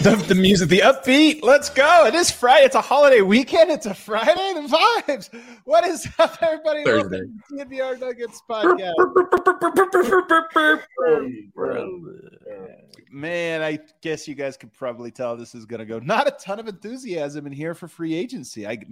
The music, the upbeat. Let's go. It is Friday. It's a holiday weekend. It's a Friday. The vibes. What is up, everybody? Thursday. Welcome to the DNVR Nuggets podcast. Man, I guess you guys could probably tell this is going to go. Not a ton of enthusiasm in here for free agency. I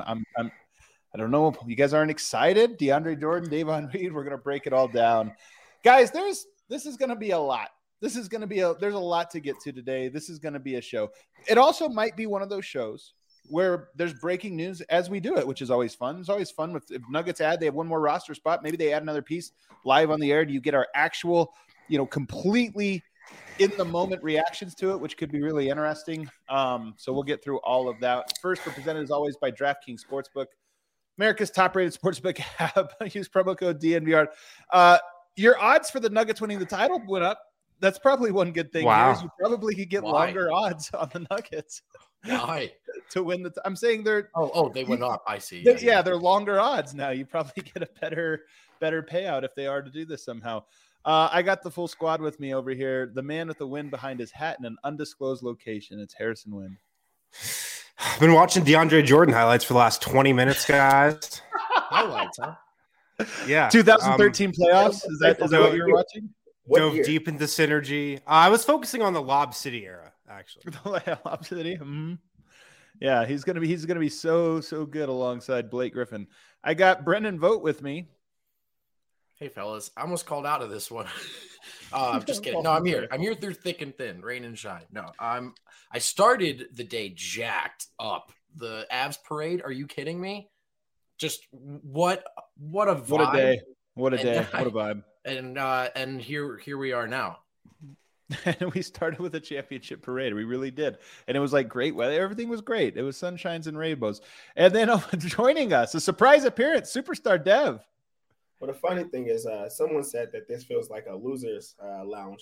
don't know. You guys aren't excited? DeAndre Jordan, Davon Reed. We're going to break it all down, guys. This is going to be a lot. There's a lot to get to today. This is going to be a show. It also might be one of those shows where there's breaking news as we do it, which is always fun. It's always fun if Nuggets they have one more roster spot. Maybe they add another piece live on the air. Do you get our actual, completely in the moment reactions to it, which could be really interesting. So we'll get through all of that. First, we're presented as always by DraftKings Sportsbook, America's top-rated sportsbook app. Use promo code DNVR. Your odds for the Nuggets winning the title went up. That's probably one good thing. Wow. Here is you probably could get longer odds on the Nuggets. Why? To win I'm saying they're. Oh, they went up. I see. They're longer odds now. You probably get a better payout if they are to do this somehow. I got the full squad with me over here. The man with the win behind his hat in an undisclosed location. It's Harrison Wynn. I've been watching DeAndre Jordan highlights for the last 20 minutes, guys. Highlights, huh? Yeah. 2013 playoffs. Is that what you're watching? Dove deep into synergy. I was focusing on the Lob City era, actually. The Lob City. Mm-hmm. Yeah, he's gonna be so good alongside Blake Griffin. I got Brendan Vogt with me. Hey fellas, I almost called out of this one. I'm just kidding. No, I'm here. I'm here through thick and thin, rain and shine. No, I started the day jacked up. The Avs parade. Are you kidding me? Just what a vibe. What a day. What a day. What a vibe. And here we are now. And we started with a championship parade. We really did. And it was like great weather. Everything was great. It was sunshines and rainbows. And then joining us, a surprise appearance, superstar Dev. Well, the funny thing is, someone said that this feels like a loser's lounge,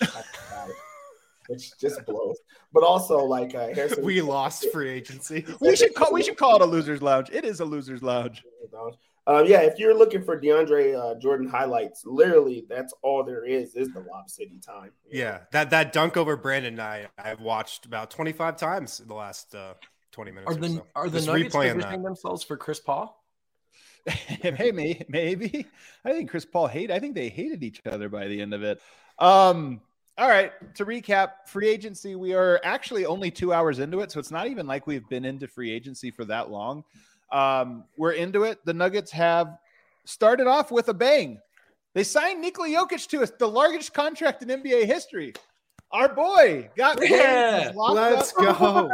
which just blows. But also, like Harrison, we lost free agency. We should call it a loser's lounge. It is a loser's lounge. If you're looking for DeAndre Jordan highlights, literally that's all there is the Lob City time. Yeah, that dunk over Brandon I've watched about 25 times in the last 20 minutes. Are the Nuggets positioning themselves for Chris Paul? Hey, maybe. I think Chris Paul I think they hated each other by the end of it. All right, to recap, free agency, we are actually only 2 hours into it, so it's not even like we've been into free agency for that long. We're into it. The Nuggets have started off with a bang. They signed Nikola Jokic to the largest contract in NBA history. Our boy got let's go.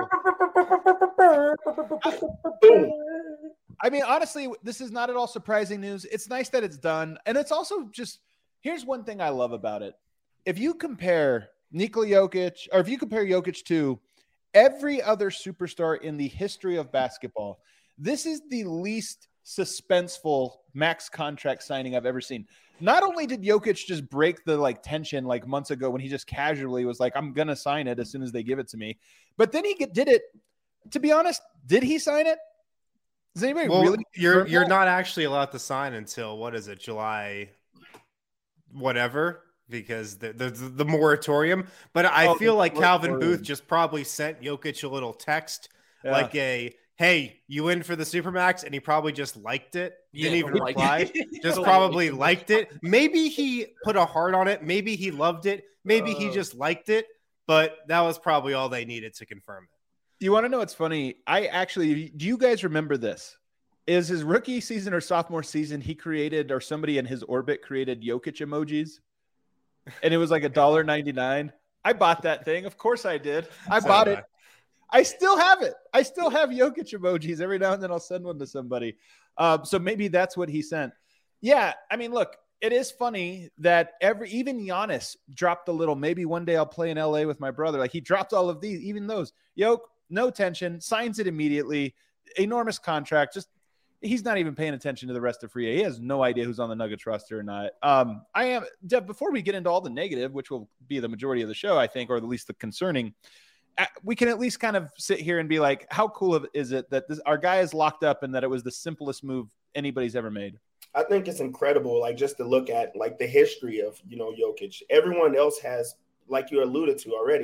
I mean, honestly, this is not at all surprising news. It's nice that it's done. And it's also here's one thing I love about it. If you compare Nikola Jokic, or if you compare Jokic to every other superstar in the history of basketball, this is the least suspenseful max contract signing I've ever seen. Not only did Jokic just break the tension months ago when he just casually was like, I'm going to sign it as soon as they give it to me. But then he did it. To be honest, did he sign it? Does anybody really? You're not actually allowed to sign until, what is it, July whatever, because the moratorium. But I feel like Calvin Booth just probably sent Jokic a little text like hey, you in for the Supermax? And he probably just liked it. Didn't even reply. Just probably liked it. Maybe he put a heart on it. Maybe he loved it. Maybe he just liked it. But that was probably all they needed to confirm it. You want to know what's funny? Do you guys remember this? Is his rookie season or sophomore season, he created, or somebody in his orbit created Jokic emojis? And it was like $1.99. I bought that thing. Of course I did. I bought it. I still have it. I still have Jokic emojis. Every now and then I'll send one to somebody. So maybe that's what he sent. Yeah, I mean, look, it is funny that even Giannis dropped a little, maybe one day I'll play in LA with my brother. Like, he dropped all of these, even those. Jokic, no tension, signs it immediately. Enormous contract. Just, he's not even paying attention to the rest of free agent. He has no idea who's on the Nuggets roster or not. Deb, before we get into all the negative, which will be the majority of the show, I think, or at least the concerning, we can at least kind of sit here and be like, how cool is it that our guy is locked up and that it was the simplest move anybody's ever made? I think it's incredible, just to look at the history of, Jokic. Everyone else has, like you alluded to already,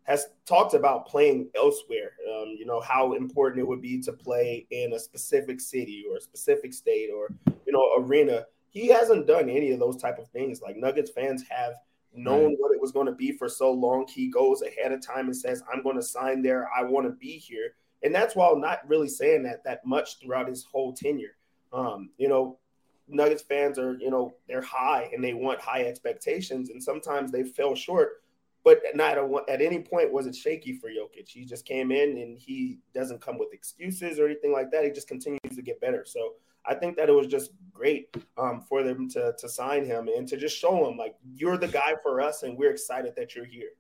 has talked about playing elsewhere, how important it would be to play in a specific city or a specific state or, arena. He hasn't done any of those type of things. Like, Nuggets fans have known what it was going to be for so long. He goes ahead of time and says, I'm going to sign there. I want to be here. And that's while not really saying that much throughout his whole tenure. Nuggets fans are, they're high and they want high expectations. And sometimes they fell short. But not at any point was it shaky for Jokic. He just came in and he doesn't come with excuses or anything like that. He just continues to get better. So I think that it was just great for them to sign him and to just show him, like, you're the guy for us and we're excited that you're here.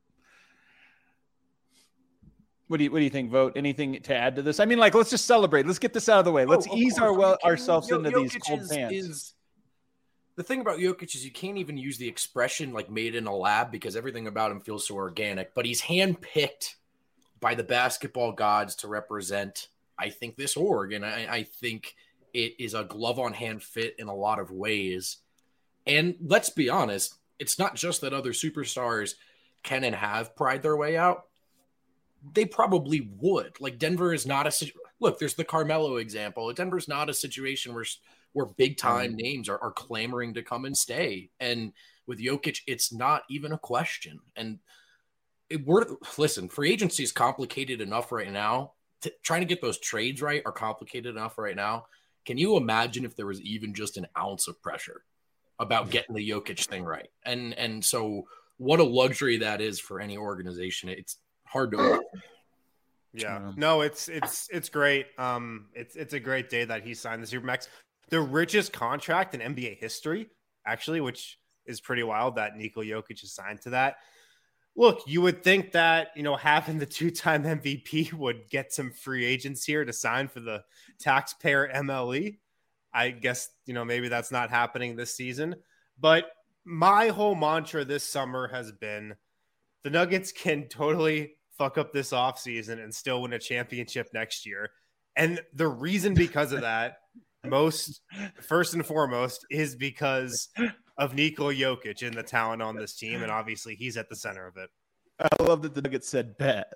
What do you think, Vote? Anything to add to this? I mean, like, let's just celebrate. Let's get this out of the way. Let's ease ourselves into these cold pants. The thing about Jokic is you can't even use the expression like made in a lab because everything about him feels so organic, but he's handpicked by the basketball gods to represent, I think, this org. And I think it is a glove on hand fit in a lot of ways. And let's be honest, it's not just that other superstars can and have pried their way out. They probably would. Like, Denver is not look, there's the Carmelo example. Denver's not a situation where big time names are clamoring to come and stay. And with Jokic, it's not even a question. And listen, free agency is complicated enough right now. Trying to get those trades right are complicated enough right now. Can you imagine if there was even just an ounce of pressure about getting the Jokic thing right? And so what a luxury that is for any organization. It's hard to. Yeah, no, it's great. It's a great day that he signed the Supermax, the richest contract in NBA history, actually, which is pretty wild that Nikola Jokic is signed to that. Look, you would think that, having the two-time MVP would get some free agents here to sign for the taxpayer MLE. I guess, maybe that's not happening this season. But my whole mantra this summer has been the Nuggets can totally fuck up this offseason and still win a championship next year. And the reason because of that, first and foremost, is because of Nikola Jokic and the talent on this team. And obviously he's at the center of it. I love that the Nuggets said bet.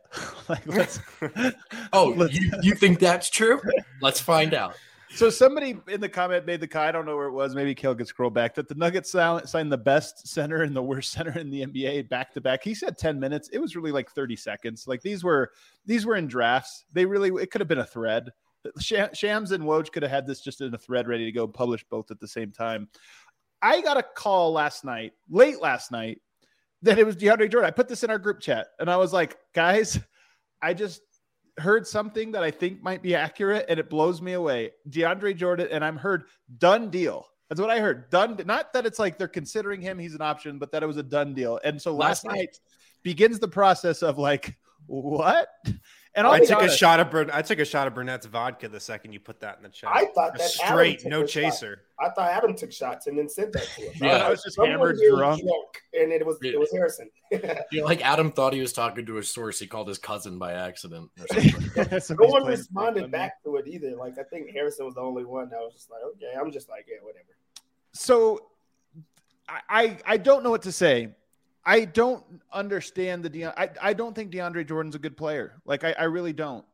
You think that's true? Let's find out. So somebody in the comment made the comment, I don't know where it was, maybe Kale could scroll back, that the Nuggets signed the best center and the worst center in the NBA back to back. He said 10 minutes. It was really like 30 seconds. Like, these were in drafts. It could have been a thread. Shams and Woj could have had this just in a thread ready to go, publish both at the same time. I got a call late last night, that it was DeAndre Jordan. I put this in our group chat and I was like, guys, I just heard something that I think might be accurate and it blows me away. DeAndre Jordan, and I'm heard done deal. That's what I heard. Done. Not that it's like they're considering him, he's an option, but that it was a done deal. And so last night begins the process of like, what? And I took a shot of Burnett's vodka the second you put that in the chat. I thought that straight, no chaser. I thought Adam took shots and then sent that to him. Yeah, I was just hammered drunk, and it was Harrison. Like Adam thought he was talking to a source. He called his cousin by accident. No one responded back to it either. Like, I think Harrison was the only one that was just like, okay. I'm just like, yeah, whatever. So I don't know what to say. I don't understand I don't think DeAndre Jordan's a good player. Like, I really don't.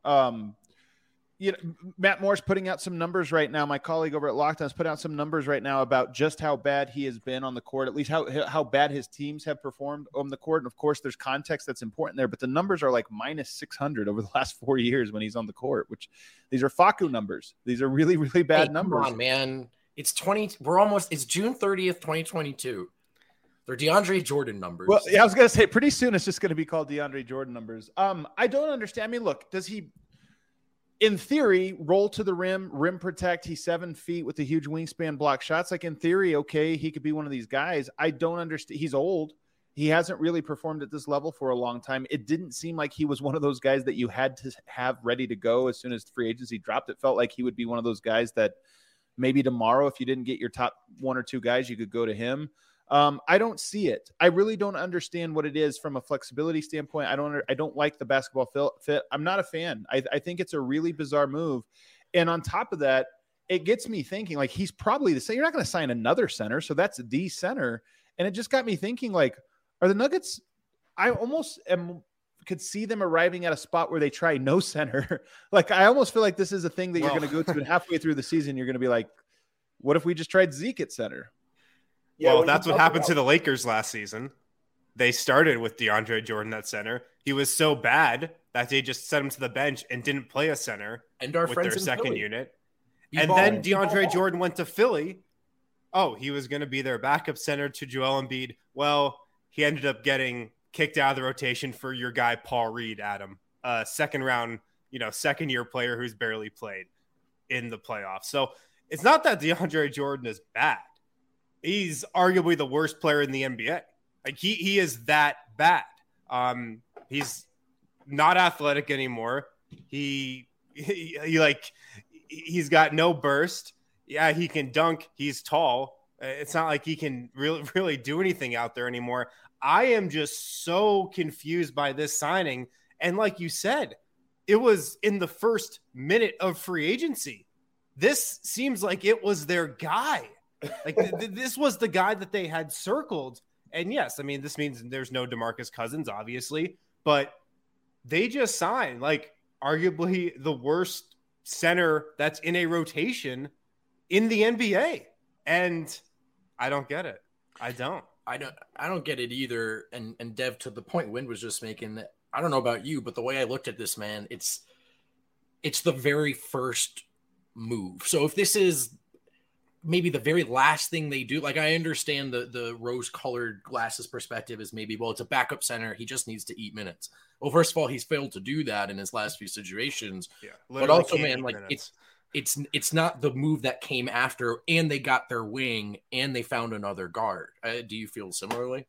Matt Moore's putting out some numbers right now. My colleague over at Lockdown has put out some numbers right now about just how bad he has been on the court, at least how bad his teams have performed on the court. And of course, there's context that's important there, but the numbers are like minus 600 over the last 4 years when he's on the court, which these are Facu numbers. These are really, really bad numbers. Come on, man. It's June 30th, 2022. They're DeAndre Jordan numbers. Well, yeah, I was going to say pretty soon it's just going to be called DeAndre Jordan numbers. I don't understand. I mean, look, does he, in theory, roll to the rim protect? He's 7 feet with a huge wingspan, block shots. Like, in theory, okay, he could be one of these guys. I don't understand. He's old. He hasn't really performed at this level for a long time. It didn't seem like he was one of those guys that you had to have ready to go as soon as free agency dropped. It felt like he would be one of those guys that maybe tomorrow, if you didn't get your top 1 or 2 guys, you could go to him. I don't see it. I really don't understand what it is from a flexibility standpoint. I don't like the basketball fit. I'm not a fan. I think it's a really bizarre move. And on top of that, it gets me thinking, like, he's probably the same. You're not going to sign another center. So that's the center. And it just got me thinking, like, are the Nuggets, I almost am could see them arriving at a spot where they try no center. Like, I almost feel like this is a thing that you're going to go to, and halfway through the season, you're going to be like, what if we just tried Zeke at center? Yeah, well, that's what happened to the Lakers last season. They started with DeAndre Jordan at center. He was so bad that they just sent him to the bench and didn't play a center and our with friends their second Philly. unit. And then DeAndre Jordan went to Philly. Oh, he was going to be their backup center to Joel Embiid. Well, he ended up getting kicked out of the rotation for your guy, Paul Reed, Adam. Second round, second year player who's barely played in the playoffs. So it's not that DeAndre Jordan is bad. He's arguably the worst player in the NBA. Like he is that bad. He's not athletic anymore. He's got no burst. Yeah, he can dunk. He's tall. It's not like he can really do anything out there anymore. I am just so confused by this signing. And like you said, it was in the first minute of free agency. This seems like it was their guy. Like this was the guy that they had circled. And yes, I mean, this means there's no DeMarcus Cousins, obviously, but they just signed like arguably the worst center that's in a rotation in the NBA. And I don't get it. I don't get it either. And Dev, to the point Wind was just making, I don't know about you, but the way I looked at this, man, it's the very first move. So if this is maybe the very last thing they do, like I understand the rose-colored glasses perspective is maybe, well, it's a backup center. He just needs to eat minutes. Well, first of all, he's failed to do that in his last few situations. Yeah, but also, man, like it's not the move that came after, and they got their wing and they found another guard. Do you feel similarly?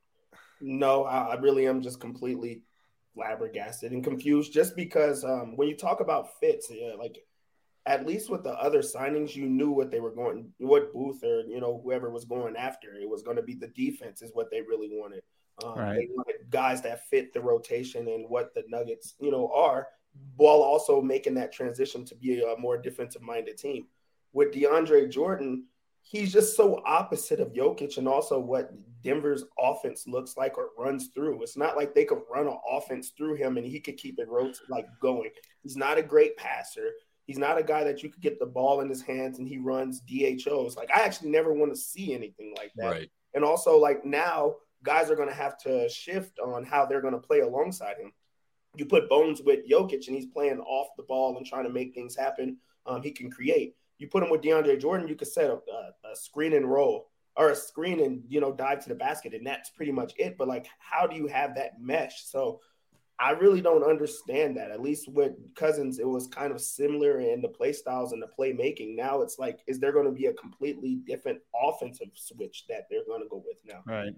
No, I really am just completely flabbergasted and confused just because when you talk about fits, like at least with the other signings, you knew what they were going, what Booth or, whoever was going after. It was going to be the defense is what they really wanted. Right. They wanted guys that fit the rotation and what the Nuggets, are, while also making that transition to be a more defensive-minded team. With DeAndre Jordan, he's just so opposite of Jokic and also what Denver's offense looks like or runs through. It's not like they could run an offense through him and he could keep it going. He's not a great passer. He's not a guy that you could get the ball in his hands and he runs DHOs. Like, I actually never want to see anything like that. Right. And also, like, now guys are going to have to shift on how they're going to play alongside him. You put Bones with Jokic and he's playing off the ball and trying to make things happen. He can create. You put him with DeAndre Jordan, you could set a screen and roll or a screen and, dive to the basket. And that's pretty much it. But, like, how do you have that mesh? So I really don't understand that. At least with Cousins, it was kind of similar in the play styles and the playmaking. Now it's like, is there going to be a completely different offensive switch that they're going to go with now? Right.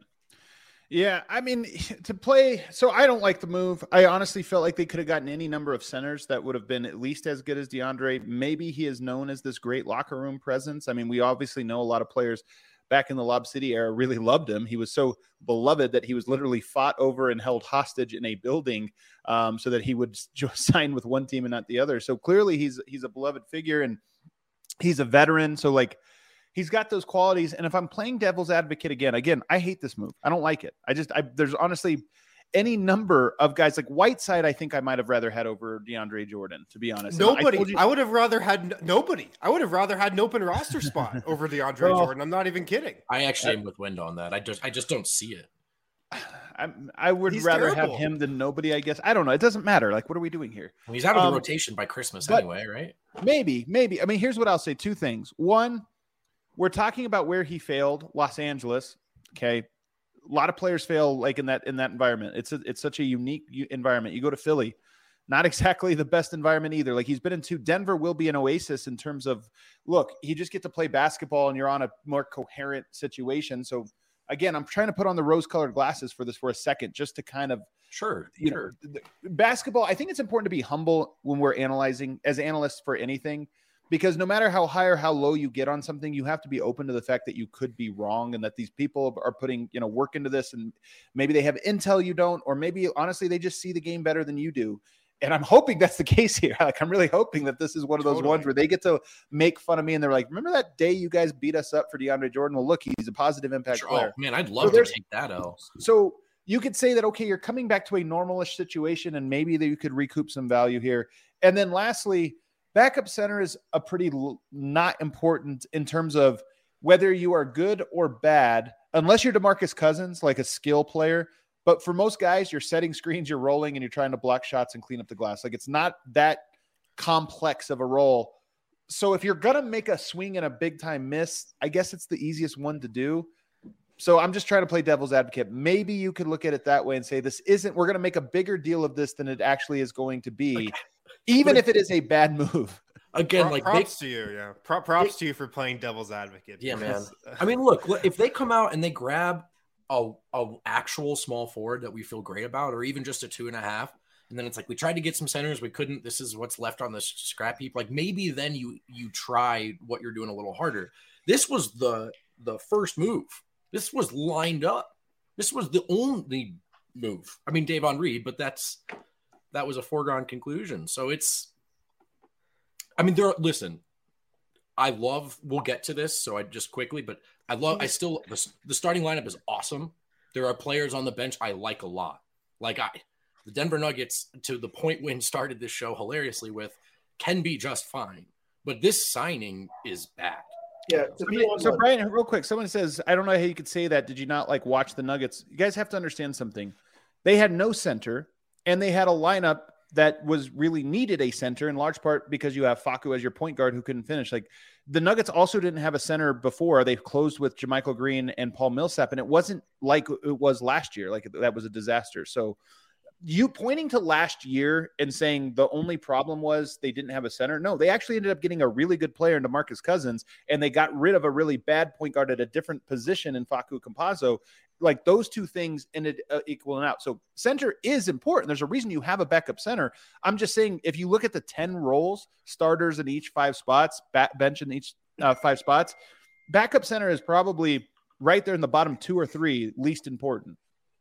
Yeah, I mean, to play, so I don't like the move. I honestly felt like they could have gotten any number of centers that would have been at least as good as DeAndre. Maybe he is known as this great locker room presence. I mean, we obviously know a lot of players back in the Lob City era really loved him. He was so beloved that he was literally fought over and held hostage in a building so that he would sign with one team and not the other. So clearly he's a beloved figure and he's a veteran. So like, he's got those qualities. And if I'm playing devil's advocate again, I hate this move. I don't like it. There's honestly any number of guys like Whiteside. I think I might've rather had over DeAndre Jordan, to be honest. Nobody. I would have rather had nobody. I would have rather had an open roster spot over DeAndre Jordan. I'm not even kidding. I actually am with Wind on that. I just don't see it. I would rather have him than nobody, I guess. I don't know. It doesn't matter. Like, what are we doing here? Well, he's out of the rotation by Christmas anyway, right? Maybe. I mean, here's what I'll say. Two things. One, we're talking about where he failed, Los Angeles. Okay. A lot of players fail like in that environment. It's such a unique environment. You go to Philly, not exactly the best environment either. Like he's been into Denver will be an oasis in terms of, look, you just get to play basketball and you're on a more coherent situation. So again, I'm trying to put on the rose-colored glasses for this for a second, just to kind of sure. Basketball. I think it's important to be humble when we're analyzing as analysts for anything. Because no matter how high or how low you get on something, you have to be open to the fact that you could be wrong and that these people are putting, work into this and maybe they have intel you don't, or maybe honestly, they just see the game better than you do. And I'm hoping that's the case here. Like, I'm really hoping that this is one of those ones where they get to make fun of me and they're like, remember that day you guys beat us up for DeAndre Jordan? Well, look, he's a positive impact player. Oh, man, I'd love to take that out. So you could say that, okay, you're coming back to a normalish situation and maybe that you could recoup some value here. And then lastly, backup center is a pretty not important in terms of whether you are good or bad, unless you're DeMarcus Cousins, like a skill player. But for most guys, you're setting screens, you're rolling, and you're trying to block shots and clean up the glass. Like, it's not that complex of a role. So if you're going to make a swing and a big time miss, I guess it's the easiest one to do. So I'm just trying to play devil's advocate. Maybe you could look at it that way and say, we're going to make a bigger deal of this than it actually is going to be, even if it is a bad move. Again, props to you. Yeah. Props to you for playing devil's advocate. Yeah, man. I mean, look, if they come out and they grab a actual small forward that we feel great about, or even just a 2.5, and then it's like, we tried to get some centers, we couldn't, this is what's left on the scrap heap. Like, maybe then you try what you're doing a little harder. This was the first move. This was lined up. This was the only move. I mean, Davon Reed, but that was a foregone conclusion. So listen, we'll get to this. So the starting lineup is awesome. There are players on the bench I like a lot. The Denver Nuggets, to the point when started this show hilariously with, can be just fine. But this signing is bad. Yeah. So Brian, real quick, someone says, I don't know how you could say that. Did you not watch the Nuggets? You guys have to understand something. They had no center, and they had a lineup that was really needed a center in large part because you have Facu as your point guard who couldn't finish. Like, the Nuggets also didn't have a center before. They closed with JaMychal Green and Paul Millsap, and it wasn't like it was last year. Like, that was a disaster. So you pointing to last year and saying the only problem was they didn't have a center. No, they actually ended up getting a really good player in DeMarcus Cousins, and they got rid of a really bad point guard at a different position in Facu Campazzo. Like, those two things ended equaling out. So center is important. There's a reason you have a backup center. I'm just saying, if you look at the 10 roles, starters in each 5 spots, bench in each 5 spots, backup center is probably right there in the bottom 2 or 3 least important.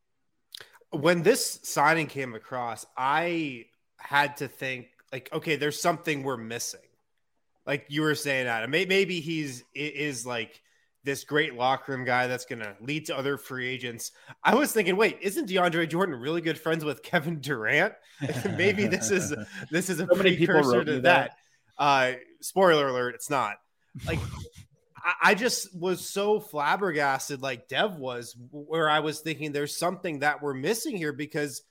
When this signing came across, I had to think, like, okay, there's something we're missing. Like you were saying, Adam, maybe is like this great locker room guy that's going to lead to other free agents. I was thinking, wait, isn't DeAndre Jordan really good friends with Kevin Durant? Maybe this is a precursor to that. Spoiler alert, it's not. Like, I just was so flabbergasted, like Dev was, where I was thinking there's something that we're missing here, because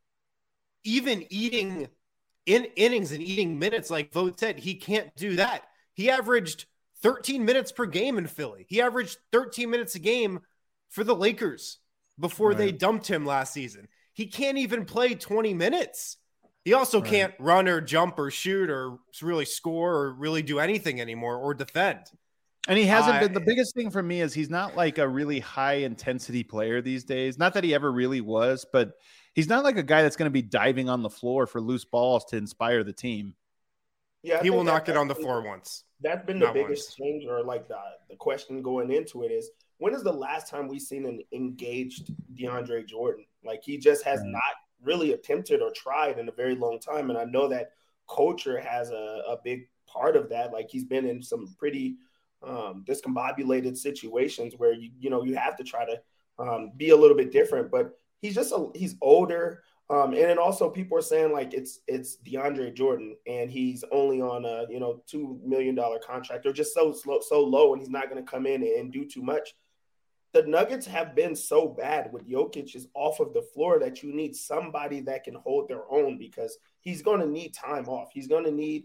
even eating in innings and eating minutes, like Vogt said, he can't do that. He averaged 13 minutes per game in Philly. He averaged 13 minutes a game for the Lakers before they dumped him last season. He can't even play 20 minutes. He also can't run or jump or shoot or really score or really do anything anymore or defend. And he hasn't been. The biggest thing for me is he's not like a really high intensity player these days. Not that he ever really was, but he's not like a guy that's going to be diving on the floor for loose balls to inspire the team. Yeah, he will not get on the floor once. That's been the biggest change, or like the question going into it is, when is the last time we've seen an engaged DeAndre Jordan? Like, he just has not really attempted or tried in a very long time. And I know that culture has a big part of that. Like, he's been in some pretty discombobulated situations where you have to try to be a little bit different, but he's older, and then also people are saying like it's DeAndre Jordan and he's only on a $2 million contract, or just so low, and he's not going to come in and do too much. The Nuggets have been so bad with Jokic is off of the floor that you need somebody that can hold their own, because he's going to need time off. He's going to need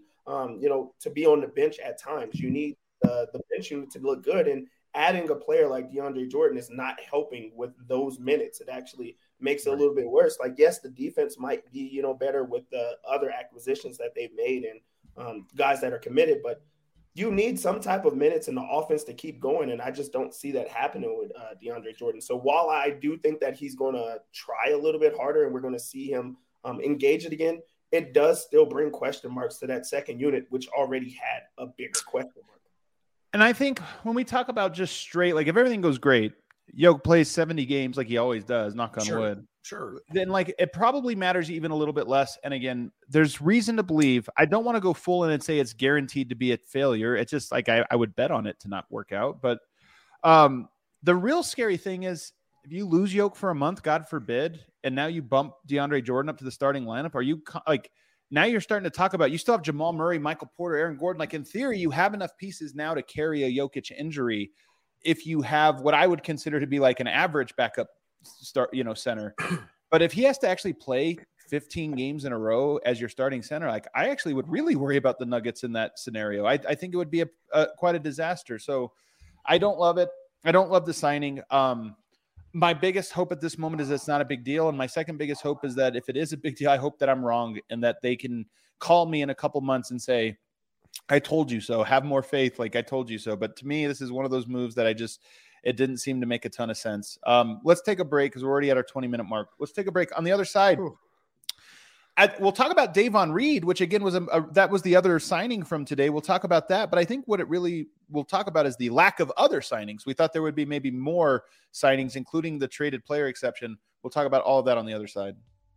to be on the bench at times. You need the bench unit to look good, and adding a player like DeAndre Jordan is not helping with those minutes. It actually makes it a little bit worse. Like, yes, the defense might be better with the other acquisitions that they've made and guys that are committed, but you need some type of minutes in the offense to keep going, and I just don't see that happening with DeAndre Jordan. So while I do think that he's going to try a little bit harder and we're going to see him engage it again, it does still bring question marks to that second unit, which already had a bigger question mark. And I think when we talk about just straight, like if everything goes great, Yoke plays 70 games like he always does, knock on wood. Sure. Then like it probably matters even a little bit less. And again, there's reason to believe. I don't want to go full in and say it's guaranteed to be a failure. It's just like I would bet on it to not work out. But the real scary thing is if you lose Yoke for a month, God forbid, and now you bump DeAndre Jordan up to the starting lineup, are you like now you're starting to talk about you still have Jamal Murray, Michael Porter, Aaron Gordon. Like in theory, you have enough pieces now to carry a Jokic injury if you have what I would consider to be like an average backup center. But if he has to actually play 15 games in a row as your starting center, like I actually would really worry about the Nuggets in that scenario. I think it would be quite a disaster. So I don't love it. I don't love the signing. My biggest hope at this moment is it's not a big deal. And my second biggest hope is that if it is a big deal, I hope that I'm wrong and that they can call me in a couple months and say, I told you so. Have more faith. Like I told you so. But to me, this is one of those moves that it didn't seem to make a ton of sense. Let's take a break because we're already at our 20-minute mark. Let's take a break. On the other side, we'll talk about Davon Reed, which again was that was the other signing from today. We'll talk about that. But I think what it really we'll talk about is the lack of other signings. We thought there would be maybe more signings, including the traded player exception. We'll talk about all of that on the other side.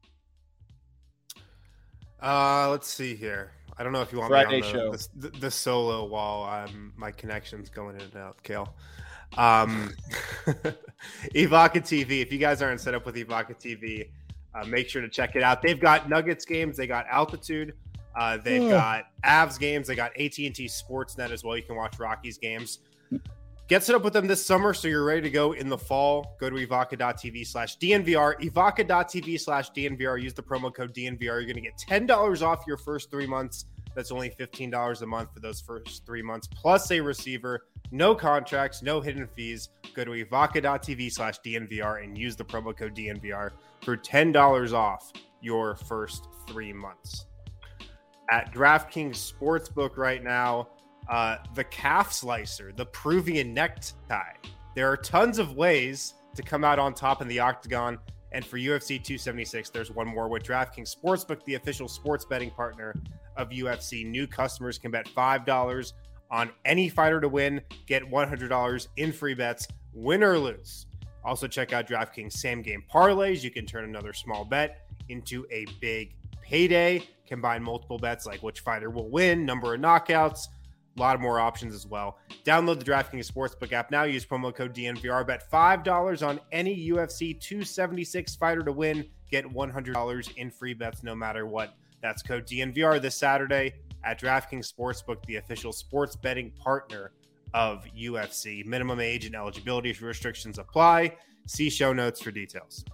Let's see here. I don't know if you want Friday me on the solo while my connection's going in and out, Kale. Evoca TV. If you guys aren't set up with Evoca TV, make sure to check it out. They've got Nuggets games. They got Altitude. They've got Avs games. They got AT&T Sportsnet as well. You can watch Rockies games. Get set up with them this summer so you're ready to go in the fall. Go to evoca.tv/DNVR. Evoca.tv/DNVR. Use the promo code DNVR. You're going to get $10 off your first 3 months. That's only $15 a month for those first 3 months, plus a receiver. No contracts, no hidden fees. Go to evoca.tv/DNVR and use the promo code DNVR for $10 off your first 3 months. At DraftKings Sportsbook right now, the calf slicer, the Peruvian necktie. There are tons of ways to come out on top in the octagon. And for UFC 276, there's one more with DraftKings Sportsbook, the official sports betting partner of UFC. New customers can bet $5 on any fighter to win, get $100 in free bets, win or lose. Also check out DraftKings same game parlays. You can turn another small bet into a big payday. Combine multiple bets like which fighter will win, number of knockouts, a lot more options as well. Download the DraftKings Sportsbook app now. Use promo code DNVR. Bet $5 on any UFC 276 fighter to win. Get $100 in free bets no matter what. That's code DNVR this Saturday at DraftKings Sportsbook, the official sports betting partner of UFC. Minimum age and eligibility restrictions apply. See show notes for details.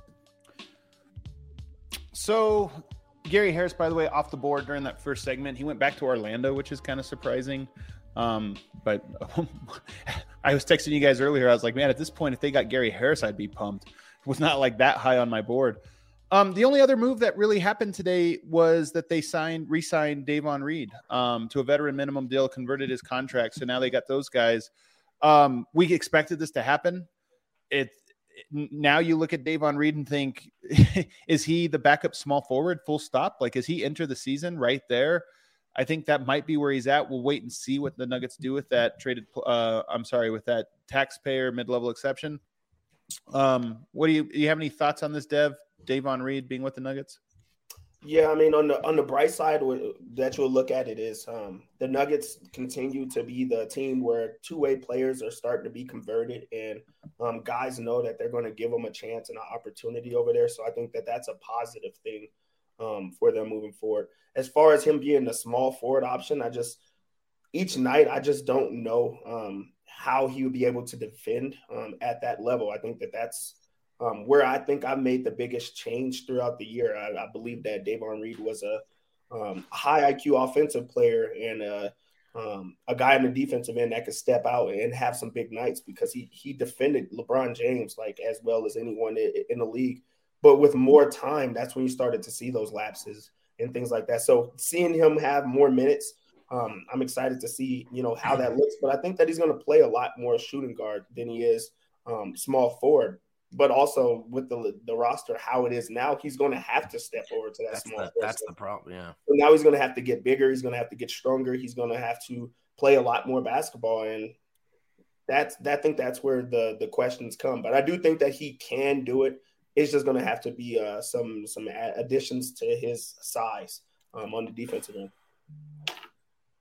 So Gary Harris, by the way, off the board during that first segment. He went back to Orlando, which is kind of surprising. But I was texting you guys earlier. I was like, man, at this point, if they got Gary Harris, I'd be pumped. It was not like that high on my board. The only other move that really happened today was that they re-signed Davon Reed to a veteran minimum deal, converted his contract. So now they got those guys. We expected this to happen. Now you look at Davon Reed and think, is he the backup small forward full stop? Like, is he enter the season right there? I think that might be where he's at. We'll wait and see what the Nuggets do with that with that taxpayer mid-level exception. What do you have any thoughts on this, Davon Reed being with the Nuggets? Yeah, I mean, on the bright side that you'll look at it is the Nuggets continue to be the team where two-way players are starting to be converted, and guys know that they're going to give them a chance and an opportunity over there. So I think that that's a positive thing for them moving forward. As far as him being the small forward option, each night I just don't know how he would be able to defend at that level. I think that's where I think I made the biggest change throughout the year. I believe that Davon Reed was a high IQ offensive player and a guy in the defensive end that could step out and have some big nights because he defended LeBron James like as well as anyone in the league. But with more time, that's when you started to see those lapses and things like that. So seeing him have more minutes, I'm excited to see, how that looks. But I think that he's going to play a lot more shooting guard than he is small forward. But also with the roster, how it is now, he's going to have to step over to that small forward. That's the problem, yeah. So now he's going to have to get bigger. He's going to have to get stronger. He's going to have to play a lot more basketball. And I think that's where the questions come. But I do think that he can do it. It's just going to have to be some additions to his size on the defensive end.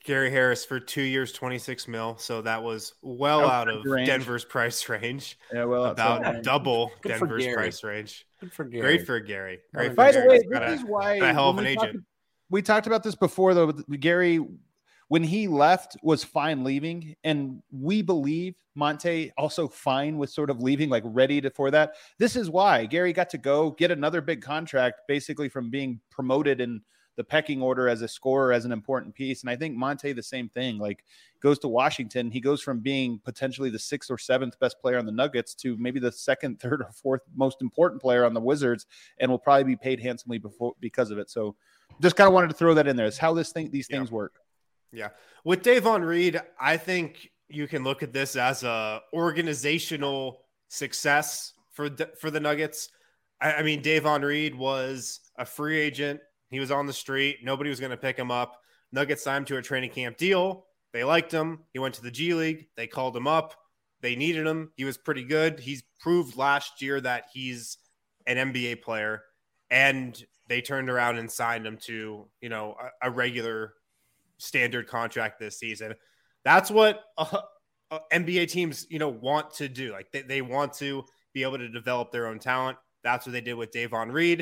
Gary Harris for 2 years, $26 million. So that was well out of Denver's price range. Yeah, well, about double Good Denver's price range. Good for Gary. Great for Gary. Great for By Gary. the way, this is why a hell of an agent. We talked about this before, though. Gary, when he left, was fine leaving, and we believe Monte also fine with sort of leaving, like ready for that. This is why Gary got to go get another big contract, basically from being promoted in the pecking order as a scorer, as an important piece. And I think Monte, the same thing, like goes to Washington. He goes from being potentially the 6th or 7th best player on the Nuggets to maybe the 2nd, 3rd, or 4th most important player on the Wizards, and will probably be paid handsomely because of it. So just kind of wanted to throw that in there. It's how these things work. Yeah. With Davon Reed, I think you can look at this as a organizational success for the Nuggets. I mean, Davon Reed was a free agent. He was on the street. Nobody was going to pick him up. Nuggets signed him to a training camp deal. They liked him. He went to the G League. They called him up. They needed him. He was pretty good. He's proved last year that he's an NBA player. And they turned around and signed him to, a regular standard contract this season. That's what NBA teams, want to do. Like they want to be able to develop their own talent. That's what they did with Davon Reed.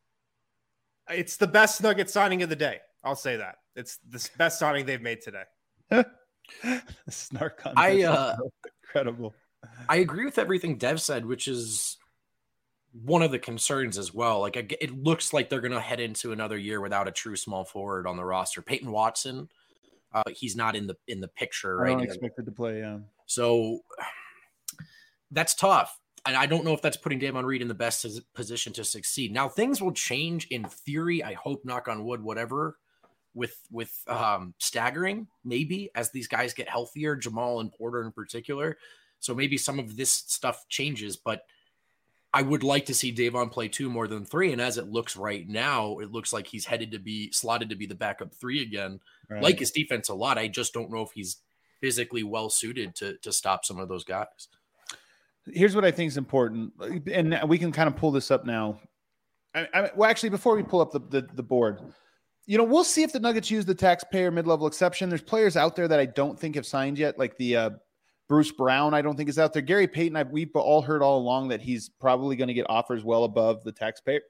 It's the best Nuggets signing of the day. I'll say that. It's the best signing they've made today. Snark on incredible. I agree with everything Dev said, which is one of the concerns as well. Like it looks like they're going to head into another year without a true small forward on the roster. Peyton Watson, he's not in the picture right now. I don't expect it to play. Yeah. So that's tough. And I don't know if that's putting Davon Reed in the best position to succeed. Now things will change in theory. I hope, knock on wood, whatever, with staggering maybe as these guys get healthier, Jamal and Porter in particular. So maybe some of this stuff changes, but I would like to see Davon play 2 more than 3. And as it looks right now, it looks like he's headed to be slotted to be the backup 3 again. Right. Like his defense a lot. I just don't know if he's physically well suited to stop some of those guys. Here's what I think is important, and we can kind of pull this up now. Well, actually, before we pull up the board, we'll see if the Nuggets use the taxpayer mid-level exception. There's players out there that I don't think have signed yet, like the Bruce Brown, I don't think is out there. Gary Payton, we've all heard all along that he's probably going to get offers well above the taxpayer.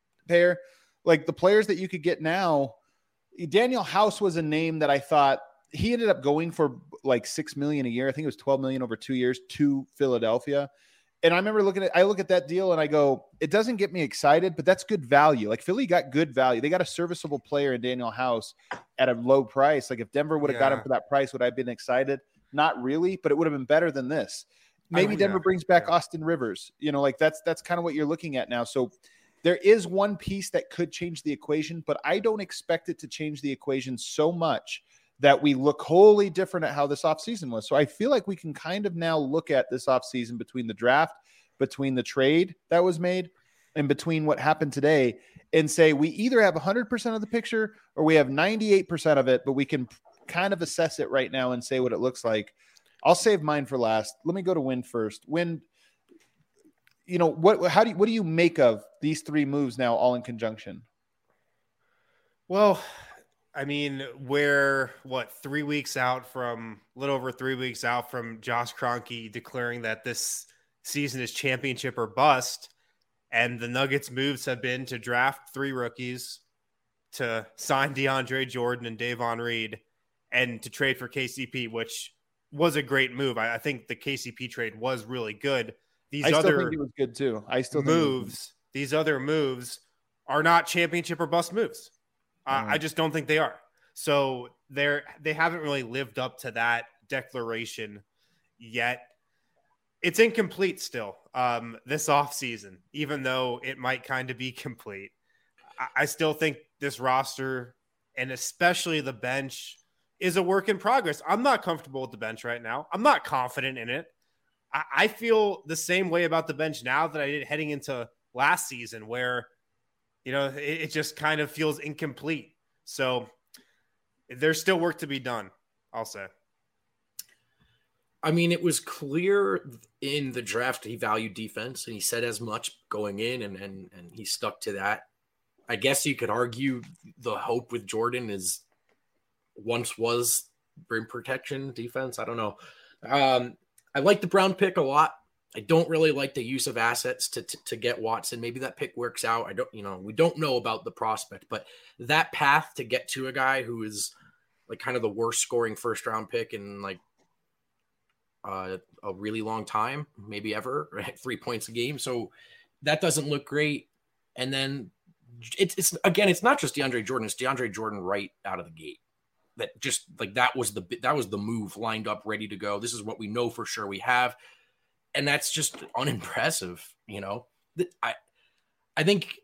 Like the players that you could get now, Daniel House was a name that I thought he ended up going for like $6 million a year. I think it was $12 million over 2 years to Philadelphia. And I remember I look at that deal and I go, it doesn't get me excited, but that's good value. Like Philly got good value. They got a serviceable player in Daniel House at a low price. Like if Denver would have got him for that price, would I have been excited? Not really, but it would have been better than this. Maybe Denver brings back Austin Rivers. Like that's kind of what you're looking at now. So there is one piece that could change the equation, but I don't expect it to change the equation so much that we look wholly different at how this offseason was. So I feel like we can kind of now look at this offseason between the draft, between the trade that was made, and between what happened today and say we either have 100% of the picture or we have 98% of it, but we can kind of assess it right now and say what it looks like. I'll save mine for last. Let me go to Win first. Win, what do you make of these 3 moves now all in conjunction? Well, I mean, we're a little over 3 weeks out from Josh Kroenke declaring that this season is championship or bust. And the Nuggets moves have been to draft 3 rookies, to sign DeAndre Jordan and Davon Reed, and to trade for KCP, which was a great move. I think the KCP trade was really good. I still think it was good too. These other moves are not championship or bust moves. I just don't think they are. So they haven't really lived up to that declaration yet. It's incomplete still this offseason, even though it might kind of be complete. I still think this roster, and especially the bench, is a work in progress. I'm not comfortable with the bench right now. I'm not confident in it. I feel the same way about the bench now that I did heading into last season, where it just kind of feels incomplete. So there's still work to be done, I'll say. I mean, it was clear in the draft he valued defense, and he said as much going in, and he stuck to that. I guess you could argue the hope with Jordan is once was rim protection defense. I don't know. I like the Brown pick a lot. I don't really like the use of assets to get Watson. Maybe that pick works out. We don't know about the prospect, but that path to get to a guy who is like kind of the worst scoring first round pick in like a really long time, maybe ever, right? 3 points a game. So that doesn't look great. And then it's not just DeAndre Jordan. It's DeAndre Jordan right out of the gate. That just like that was the move lined up, ready to go. This is what we know for sure we have. And that's just unimpressive, I think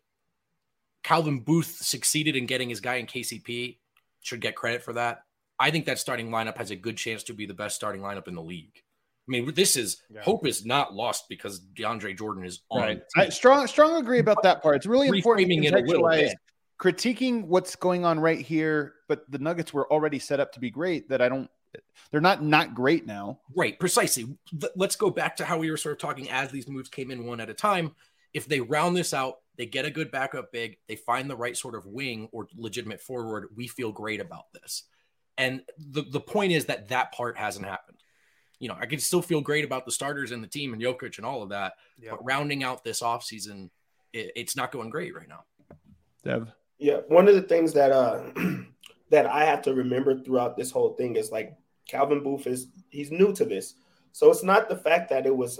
Calvin Booth succeeded in getting his guy in KCP, should get credit for that. I think that starting lineup has a good chance to be the best starting lineup in the league. I mean, hope is not lost because DeAndre Jordan is on. Right. I strong agree about that part. It's really important to contextualize critiquing what's going on right here, but the Nuggets were already set up to be great they're not great now. Right, precisely. Let's go back to how we were sort of talking as these moves came in one at a time. If they round this out, they get a good backup big, they find the right sort of wing or legitimate forward, we feel great about this. And the point is that part hasn't happened. I can still feel great about the starters and the team and Jokic and all of that, but rounding out this offseason, it's not going great right now. Dev? Yeah, one of the things that that I have to remember throughout this whole thing is like Calvin Booth he's new to this. So it's not the fact that it was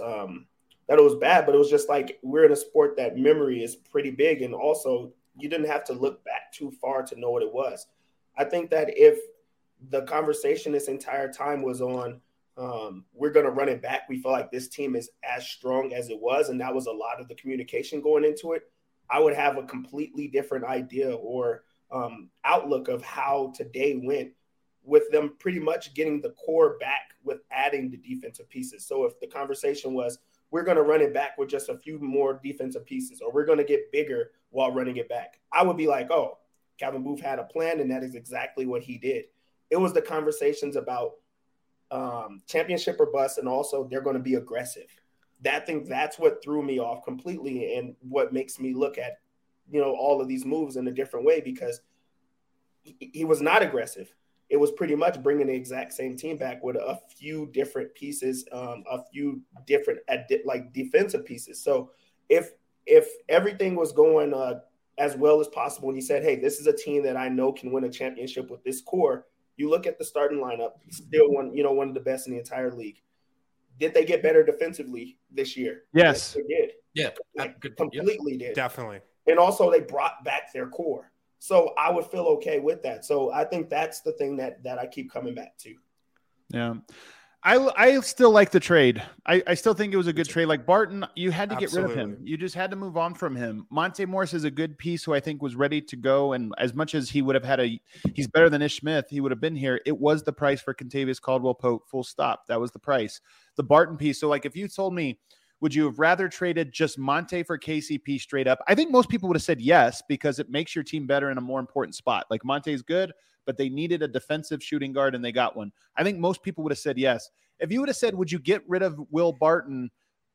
bad, but it was just like we're in a sport that memory is pretty big. And also you didn't have to look back too far to know what it was. I think that if the conversation this entire time was on we're going to run it back, we feel like this team is as strong as it was, and that was a lot of the communication going into it, I would have a completely different idea or outlook of how today went with them pretty much getting the core back with adding the defensive pieces. So if the conversation was, we're going to run it back with just a few more defensive pieces, or we're going to get bigger while running it back, I would be like, oh, Calvin Booth had a plan, and that is exactly what he did. It was the conversations about championship or bust, and also they're going to be aggressive. That's what threw me off completely, and what makes me look at, all of these moves in a different way, because he was not aggressive. It was pretty much bringing the exact same team back with a few different pieces, a few different like defensive pieces. So if everything was going as well as possible, and he said, hey, this is a team that I know can win a championship with this core, you look at the starting lineup, still one of the best in the entire league. Did they get better defensively this year? Yes. They did. Yeah. Completely did. Definitely. And also they brought back their core. So I would feel okay with that. So I think that's the thing that I keep coming back to. Yeah. I still like the trade. I still think it was a good trade. Like Barton, you had to get rid of him. You just had to move on from him. Monte Morris is a good piece who I think was ready to go. And as much as he would have had he's better than Ish Smith, he would have been here. It was the price for Kentavious Caldwell-Pope, full stop. That was the price. The Barton piece. So like if you told me, would you have rather traded just Monte for KCP straight up? I think most people would have said yes, because it makes your team better in a more important spot. Like Monte's good, but they needed a defensive shooting guard and they got one. I think most people would have said yes. If you would have said, would you get rid of Will Barton,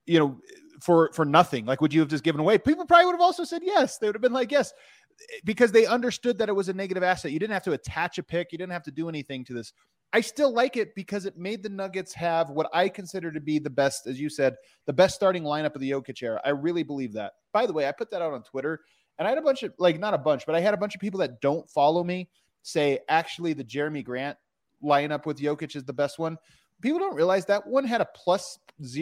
for nothing? Like, would you have just given away? People probably would have also said yes. They would have been like, yes, because they understood that it was a negative asset. You didn't have to attach a pick. You didn't have to do anything to this. I still like it because it made the Nuggets have what I consider to be the best, as you said, the best starting lineup of the Jokic era. I really believe that. By the way, I put that out on Twitter, and I had a bunch of, not a bunch, but I had a bunch of people that don't follow me say, actually, the Jeremy Grant lineup with Jokic is the best one. People don't realize that one had a plus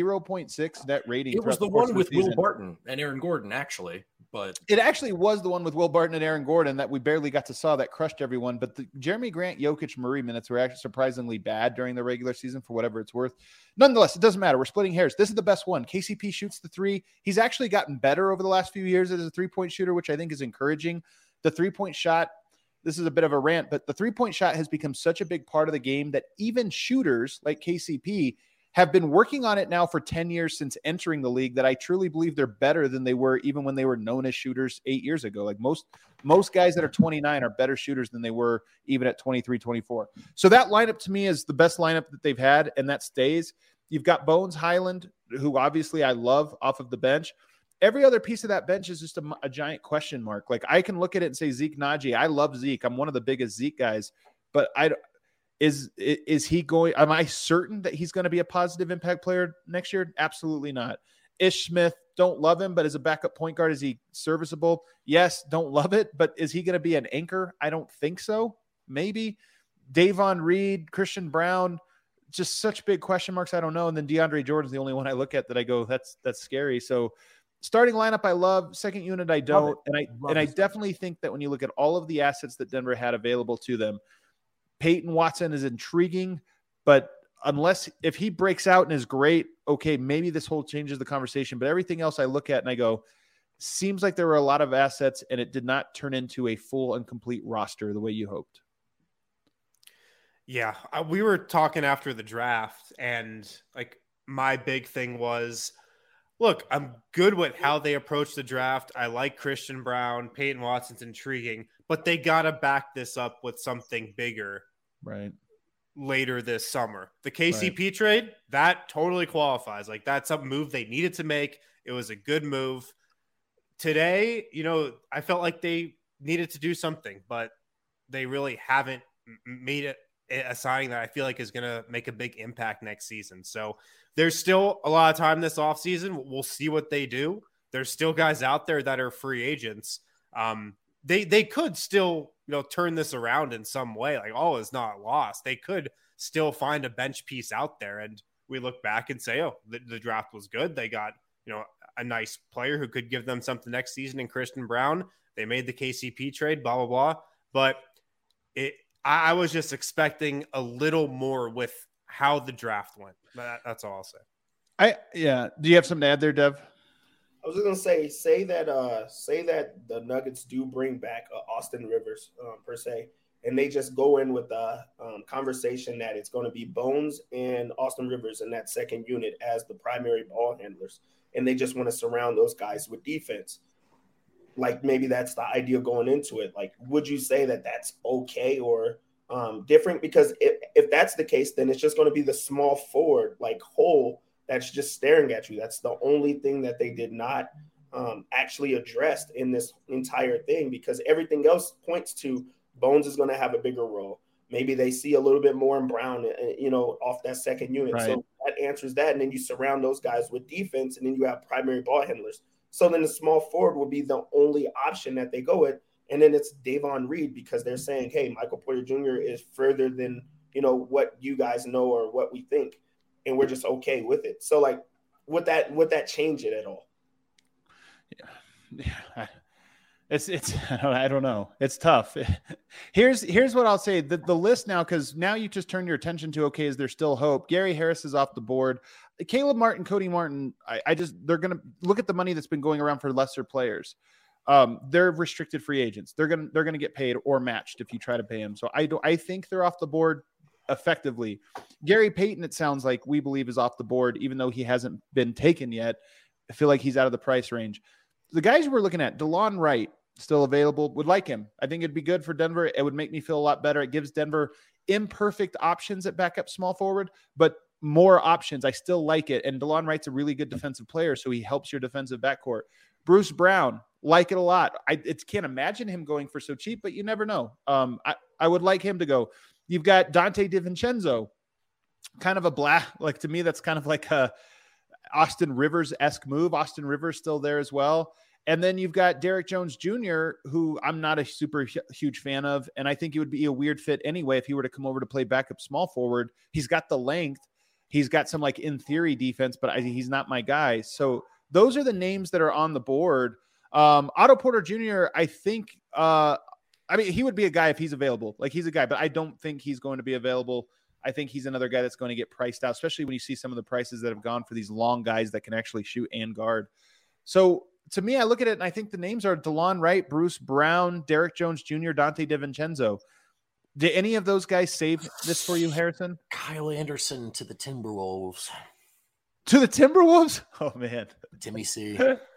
0.6 net rating. It was the one with Will Barton and Aaron Gordon, actually. But it actually was the one with Will Barton and Aaron Gordon that we barely got to saw that crushed everyone. But the Jeremy Grant, Jokic, Murray minutes were actually surprisingly bad during the regular season for whatever it's worth. Nonetheless, it doesn't matter. We're splitting hairs. This is the best one. KCP shoots the three. He's actually gotten better over the last few years as a three-point shooter, which I think is encouraging. The three-point shot, this is a bit of a rant, but the three-point shot has become such a big part of the game that even shooters like KCP have been working on it now for 10 years since entering the league, that I truly believe they're better than they were even when they were known as shooters 8 years ago. Like most guys that are 29 are better shooters than they were even at 23, 24. So that lineup to me is the best lineup that they've had, and that stays. You've got Bones Highland, who obviously I love off of the bench. Every other piece of that bench is just a giant question mark. Like I can look at it and say Zeke Naji. I love Zeke. I'm one of the biggest Zeke guys. but is he going? Am I certain that he's going to be a positive impact player next year? Absolutely not. Ish Smith, don't love him, but as a backup point guard, is he serviceable? Yes, don't love it, but is he going to be an anchor? I don't think so. Maybe. Davon Reed, Christian Brown, just such big question marks. I don't know. And then DeAndre Jordan's the only one I look at that I go, that's scary. So starting lineup, I love. Second unit, I don't. And I definitely think that when you look at all of the assets that Denver had available to them, Peyton Watson is intriguing, but if he breaks out and is great, okay, maybe this whole changes the conversation. But everything else I look at and I go, seems like there were a lot of assets and it did not turn into a full and complete roster the way you hoped. Yeah, we were talking after the draft, and like my big thing was, look, I'm good with how they approach the draft. I like Christian Brown, Peyton Watson's intriguing, but they got to back this up with something bigger. Right. Later this summer. The KCP trade, that totally qualifies. Like that's a move they needed to make. It was a good move. Today, I felt like they needed to do something, but they really haven't made it a signing that I feel like is going to make a big impact next season. So there's still a lot of time this offseason. We'll see what they do. There's still guys out there that are free agents. They could still, turn this around in some way. Like all is not lost. They could still find a bench piece out there. And we look back and say, oh, the draft was good. They got, a nice player who could give them something next season in Christian Brown. They made the KCP trade, blah, blah, blah. But I was just expecting a little more with how the draft went. That's all I'll say. Do you have something to add there, Dev? I was just gonna say that the Nuggets do bring back Austin Rivers per se, and they just go in with the conversation that it's going to be Bones and Austin Rivers in that second unit as the primary ball handlers, and they just want to surround those guys with defense. Like maybe that's the idea going into it. Like, would you say that that's okay or different? Because if that's the case, then it's just going to be the small forward hole that's just staring at you. That's the only thing that they did not actually address in this entire thing, because everything else points to Bones is going to have a bigger role. Maybe they see a little bit more in Brown, off that second unit. Right. So that answers that. And then you surround those guys with defense, and then you have primary ball handlers. So then the small forward will be the only option that they go with. And then it's Davon Reed, because they're saying, hey, Michael Porter Jr. is further than, what you guys know or what we think. And we're just okay with it. So would that change it at all? Yeah. It's I don't know. It's tough. Here's what I'll say. The list now, because now you just turn your attention to, okay, is there still hope? Gary Harris is off the board. Caleb Martin, Cody Martin, they're going to look at the money that's been going around for lesser players. They're restricted free agents. They're going to get paid or matched if you try to pay them. So I think they're off the board effectively. Gary Payton, it sounds like we believe, is off the board, even though he hasn't been taken yet. I feel like he's out of the price range. The guys we're looking at, DeLon Wright, still available, would like him. I think it'd be good for Denver. It would make me feel a lot better. It gives Denver imperfect options at backup small forward, but more options. I still like it. And DeLon Wright's a really good defensive player, so he helps your defensive backcourt. Bruce Brown, like it a lot. I can't imagine him going for so cheap, but you never know. I would like him to go. You've got Dante DiVincenzo, kind of to me, that's kind of like a Austin Rivers-esque move. Austin Rivers still there as well. And then you've got Derek Jones Jr., who I'm not a super huge fan of, and I think it would be a weird fit anyway if he were to come over to play backup small forward. He's got the length. He's got some, in theory, defense, but he's not my guy. So those are the names that are on the board. Otto Porter Jr., I think he would be a guy if he's available. He's a guy, but I don't think he's going to be available. I think he's another guy that's going to get priced out, especially when you see some of the prices that have gone for these long guys that can actually shoot and guard. So to me, I look at it and I think the names are DeLon Wright, Bruce Brown, Derek Jones Jr., Dante DiVincenzo. Did any of those guys save this for you, Harrison? Kyle Anderson to the Timberwolves. To the Timberwolves? Oh, man. Timmy C.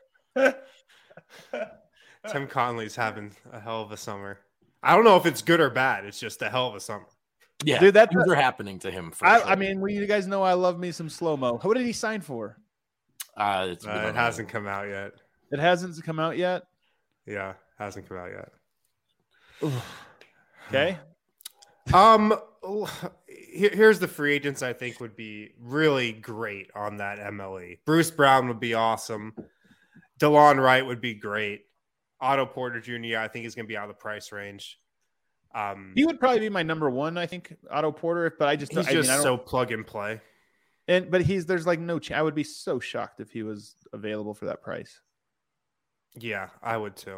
Tim Conley's having a hell of a summer. I don't know if it's good or bad. It's just a hell of a summer. Yeah, dude, things are happening to him. Sure. I mean, you guys know I love me some slow-mo. What did he sign for? It hasn't come out yet. It hasn't come out yet? Yeah, hasn't come out yet. Okay. Here's the free agents I think would be really great on that MLE. Bruce Brown would be awesome. DeLon Wright would be great. Otto Porter Jr. I think is going to be out of the price range. He would probably be my number one, I think, Otto Porter. But I just so plug and play. But there's like no chance. I would be so shocked if he was available for that price. Yeah, I would too.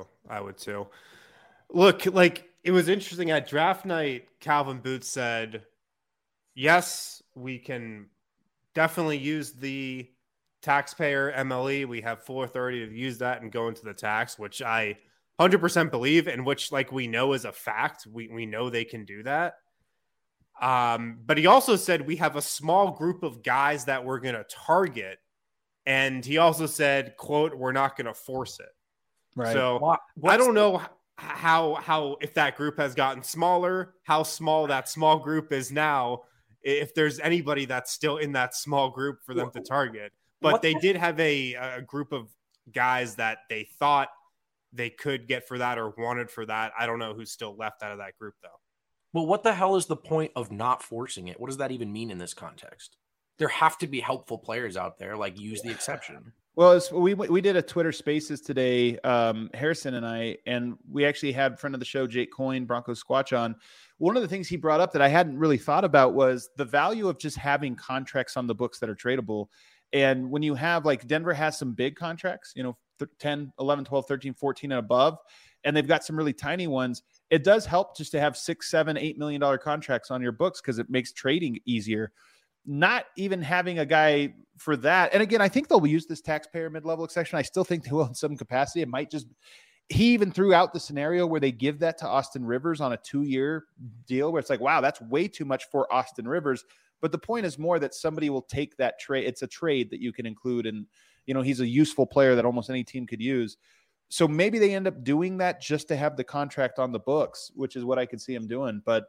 Look, like it was interesting at draft night. Calvin Booth said, "Yes, we can definitely use the taxpayer MLE. We have full authority to use that and go into the tax," which I 100% believe, and which like we know is a fact. We know they can do that. But he also said we have a small group of guys that we're going to target, and he also said, "quote We're not going to force it." Right. So I don't know how if that group has gotten smaller, how small that small group is now. If there's anybody that's still in that small group for them to target, but they did have a group of guys that they thought they could get for that or wanted for that. I don't know who's still left out of that group though. Well, what the hell is the point of not forcing it? What does that even mean in this context? There have to be helpful players out there, like use the exception. Well, we did a Twitter Spaces today, Harrison and I, and we actually had friend of the show, Jake Coyne, Broncos Squatch on. One of the things he brought up that I hadn't really thought about was the value of just having contracts on the books that are tradable. And when you have like Denver has some big contracts, 10, 11, 12, 13, 14 and above, and they've got some really tiny ones. It does help just to have $6, $7, $8 million contracts on your books because it makes trading easier. Not even having a guy for that. And again, I think they'll use this taxpayer mid-level exception. I still think they will in some capacity. It might just, he even threw out the scenario where they give that to Austin Rivers on a 2-year deal where it's like, wow, that's way too much for Austin Rivers. But the point is more that somebody will take that trade. It's a trade that you can include. And, he's a useful player that almost any team could use. So maybe they end up doing that just to have the contract on the books, which is what I could see him doing. But,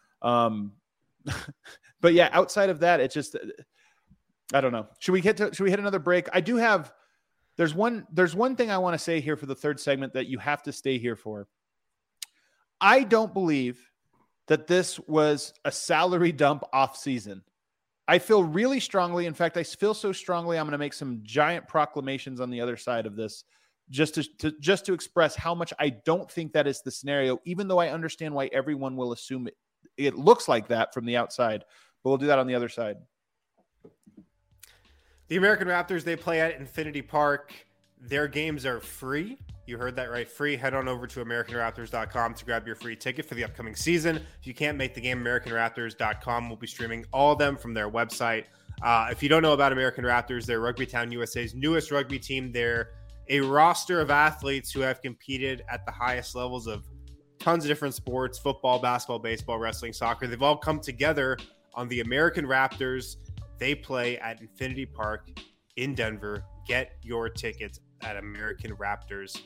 but yeah, outside of that, it's just, I don't know. Should we hit another break? There's one thing I want to say here for the third segment that you have to stay here for. I don't believe that this was a salary dump off season. I feel really strongly. In fact, I feel so strongly, I'm going to make some giant proclamations on the other side of this just to express how much I don't think that is the scenario, even though I understand why everyone will assume it looks like that from the outside. But we'll do that on the other side. The American Raptors, they play at Infinity Park. Their games are free. You heard that right, free. Head on over to AmericanRaptors.com to grab your free ticket for the upcoming season. If you can't make the game, AmericanRaptors.com will be streaming all of them from their website. If you don't know about American Raptors, they're Rugby Town USA's newest rugby team. They're a roster of athletes who have competed at the highest levels of tons of different sports: football, basketball, baseball, wrestling, soccer. They've all come together on the American Raptors. They play at Infinity Park in Denver. Get your tickets at AmericanRaptors.com.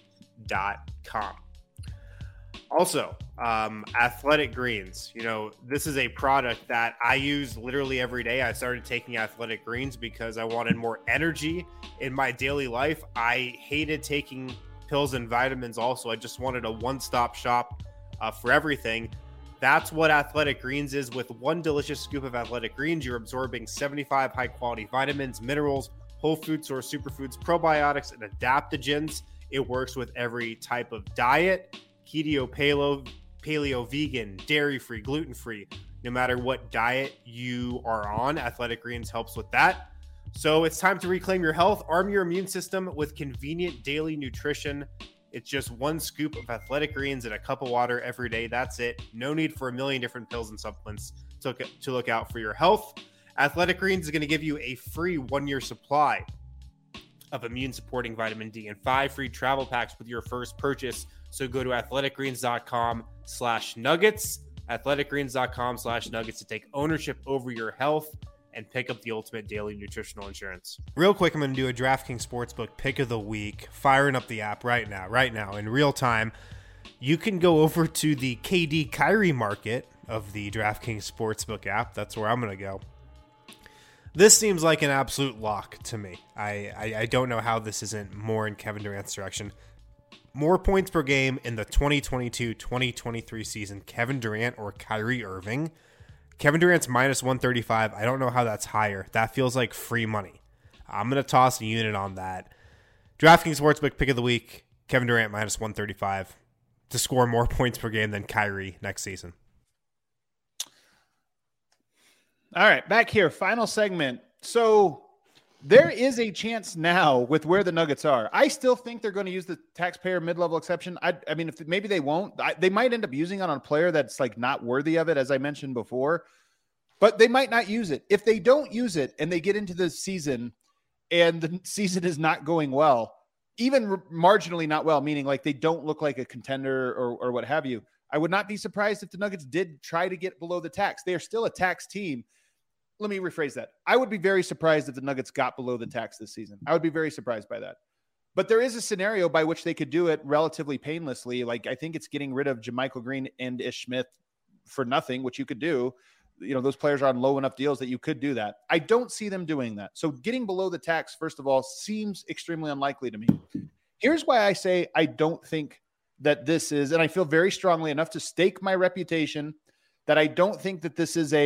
Also, Athletic Greens. This is a product that I use literally every day. I started taking Athletic Greens because I wanted more energy in my daily life. I hated taking pills and vitamins also. I just wanted a one-stop shop for everything. That's what Athletic Greens is. With one delicious scoop of Athletic Greens, you're absorbing 75 high-quality vitamins, minerals, whole food source superfoods, probiotics, and adaptogens. It works with every type of diet: keto, paleo, vegan, dairy-free, gluten-free. No matter what diet you are on, Athletic Greens helps with that. So it's time to reclaim your health. Arm your immune system with convenient daily nutrition. It's just one scoop of Athletic Greens and a cup of water every day. That's it. No need for a million different pills and supplements to look out for your health. Athletic Greens is going to give you a free 1-year supply of immune-supporting vitamin D and 5 free travel packs with your first purchase. So go to athleticgreens.com/nuggets, athleticgreens.com/nuggets to take ownership over your health and pick up the ultimate daily nutritional insurance. Real quick, I'm going to do a DraftKings Sportsbook pick of the week, firing up the app right now, in real time. You can go over to the KD Kyrie market of the DraftKings Sportsbook app. That's where I'm going to go. This seems like an absolute lock to me. I don't know how this isn't more in Kevin Durant's direction. More points per game in the 2022-2023 season, Kevin Durant or Kyrie Irving? Kevin Durant's minus 135. I don't know how that's higher. That feels like free money. I'm going to toss a unit on that. DraftKings Sportsbook pick of the week, Kevin Durant minus 135 to score more points per game than Kyrie next season. All right, back here, final segment. So there is a chance now with where the Nuggets are. I still think they're going to use the taxpayer mid-level exception. I mean, if maybe they won't. They might end up using it on a player that's like not worthy of it, as I mentioned before. But they might not use it. If they don't use it and they get into the season and the season is not going well, even marginally not well, meaning like they don't look like a contender or what have you, I would not be surprised if the Nuggets did try to get below the tax. They are still a tax team. Let me rephrase that. I would be very surprised if the Nuggets got below the tax this season. I would be very surprised by that. But there is a scenario by which they could do it relatively painlessly. Like I think it's getting rid of JaMychal Green and Ish Smith for nothing, which you could do. You know, those players are on low enough deals that you could do that. I don't see them doing that. So getting below the tax, first of all, seems extremely unlikely to me. Here's why I say I don't think that this is, and I feel very strongly enough to stake my reputation that I don't think that this is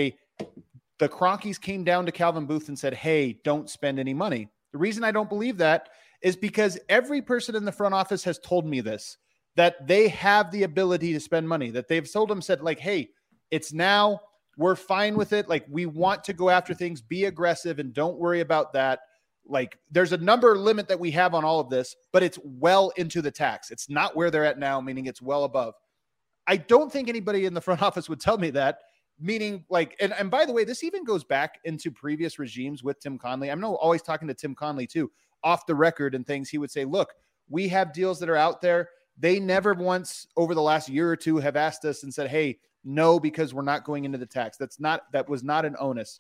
the Cronkies came down to Calvin Booth and said, hey, don't spend any money. The reason I don't believe that is because every person in the front office has told me this, that they have the ability to spend money, that they've told them, said like, hey, it's now, we're fine with it. Like we want to go after things, be aggressive and don't worry about that. Like there's a number limit that we have on all of this, but it's well into the tax. It's not where they're at now, meaning it's well above. I don't think anybody in the front office would tell me that. Meaning like, and by the way, this even goes back into previous regimes with Tim Connelly. I'm always talking to Tim Connelly too, off the record and things. He would say, look, we have deals that are out there. They never once over the last year or two have asked us and said, hey, no, because we're not going into the tax. That was not an onus.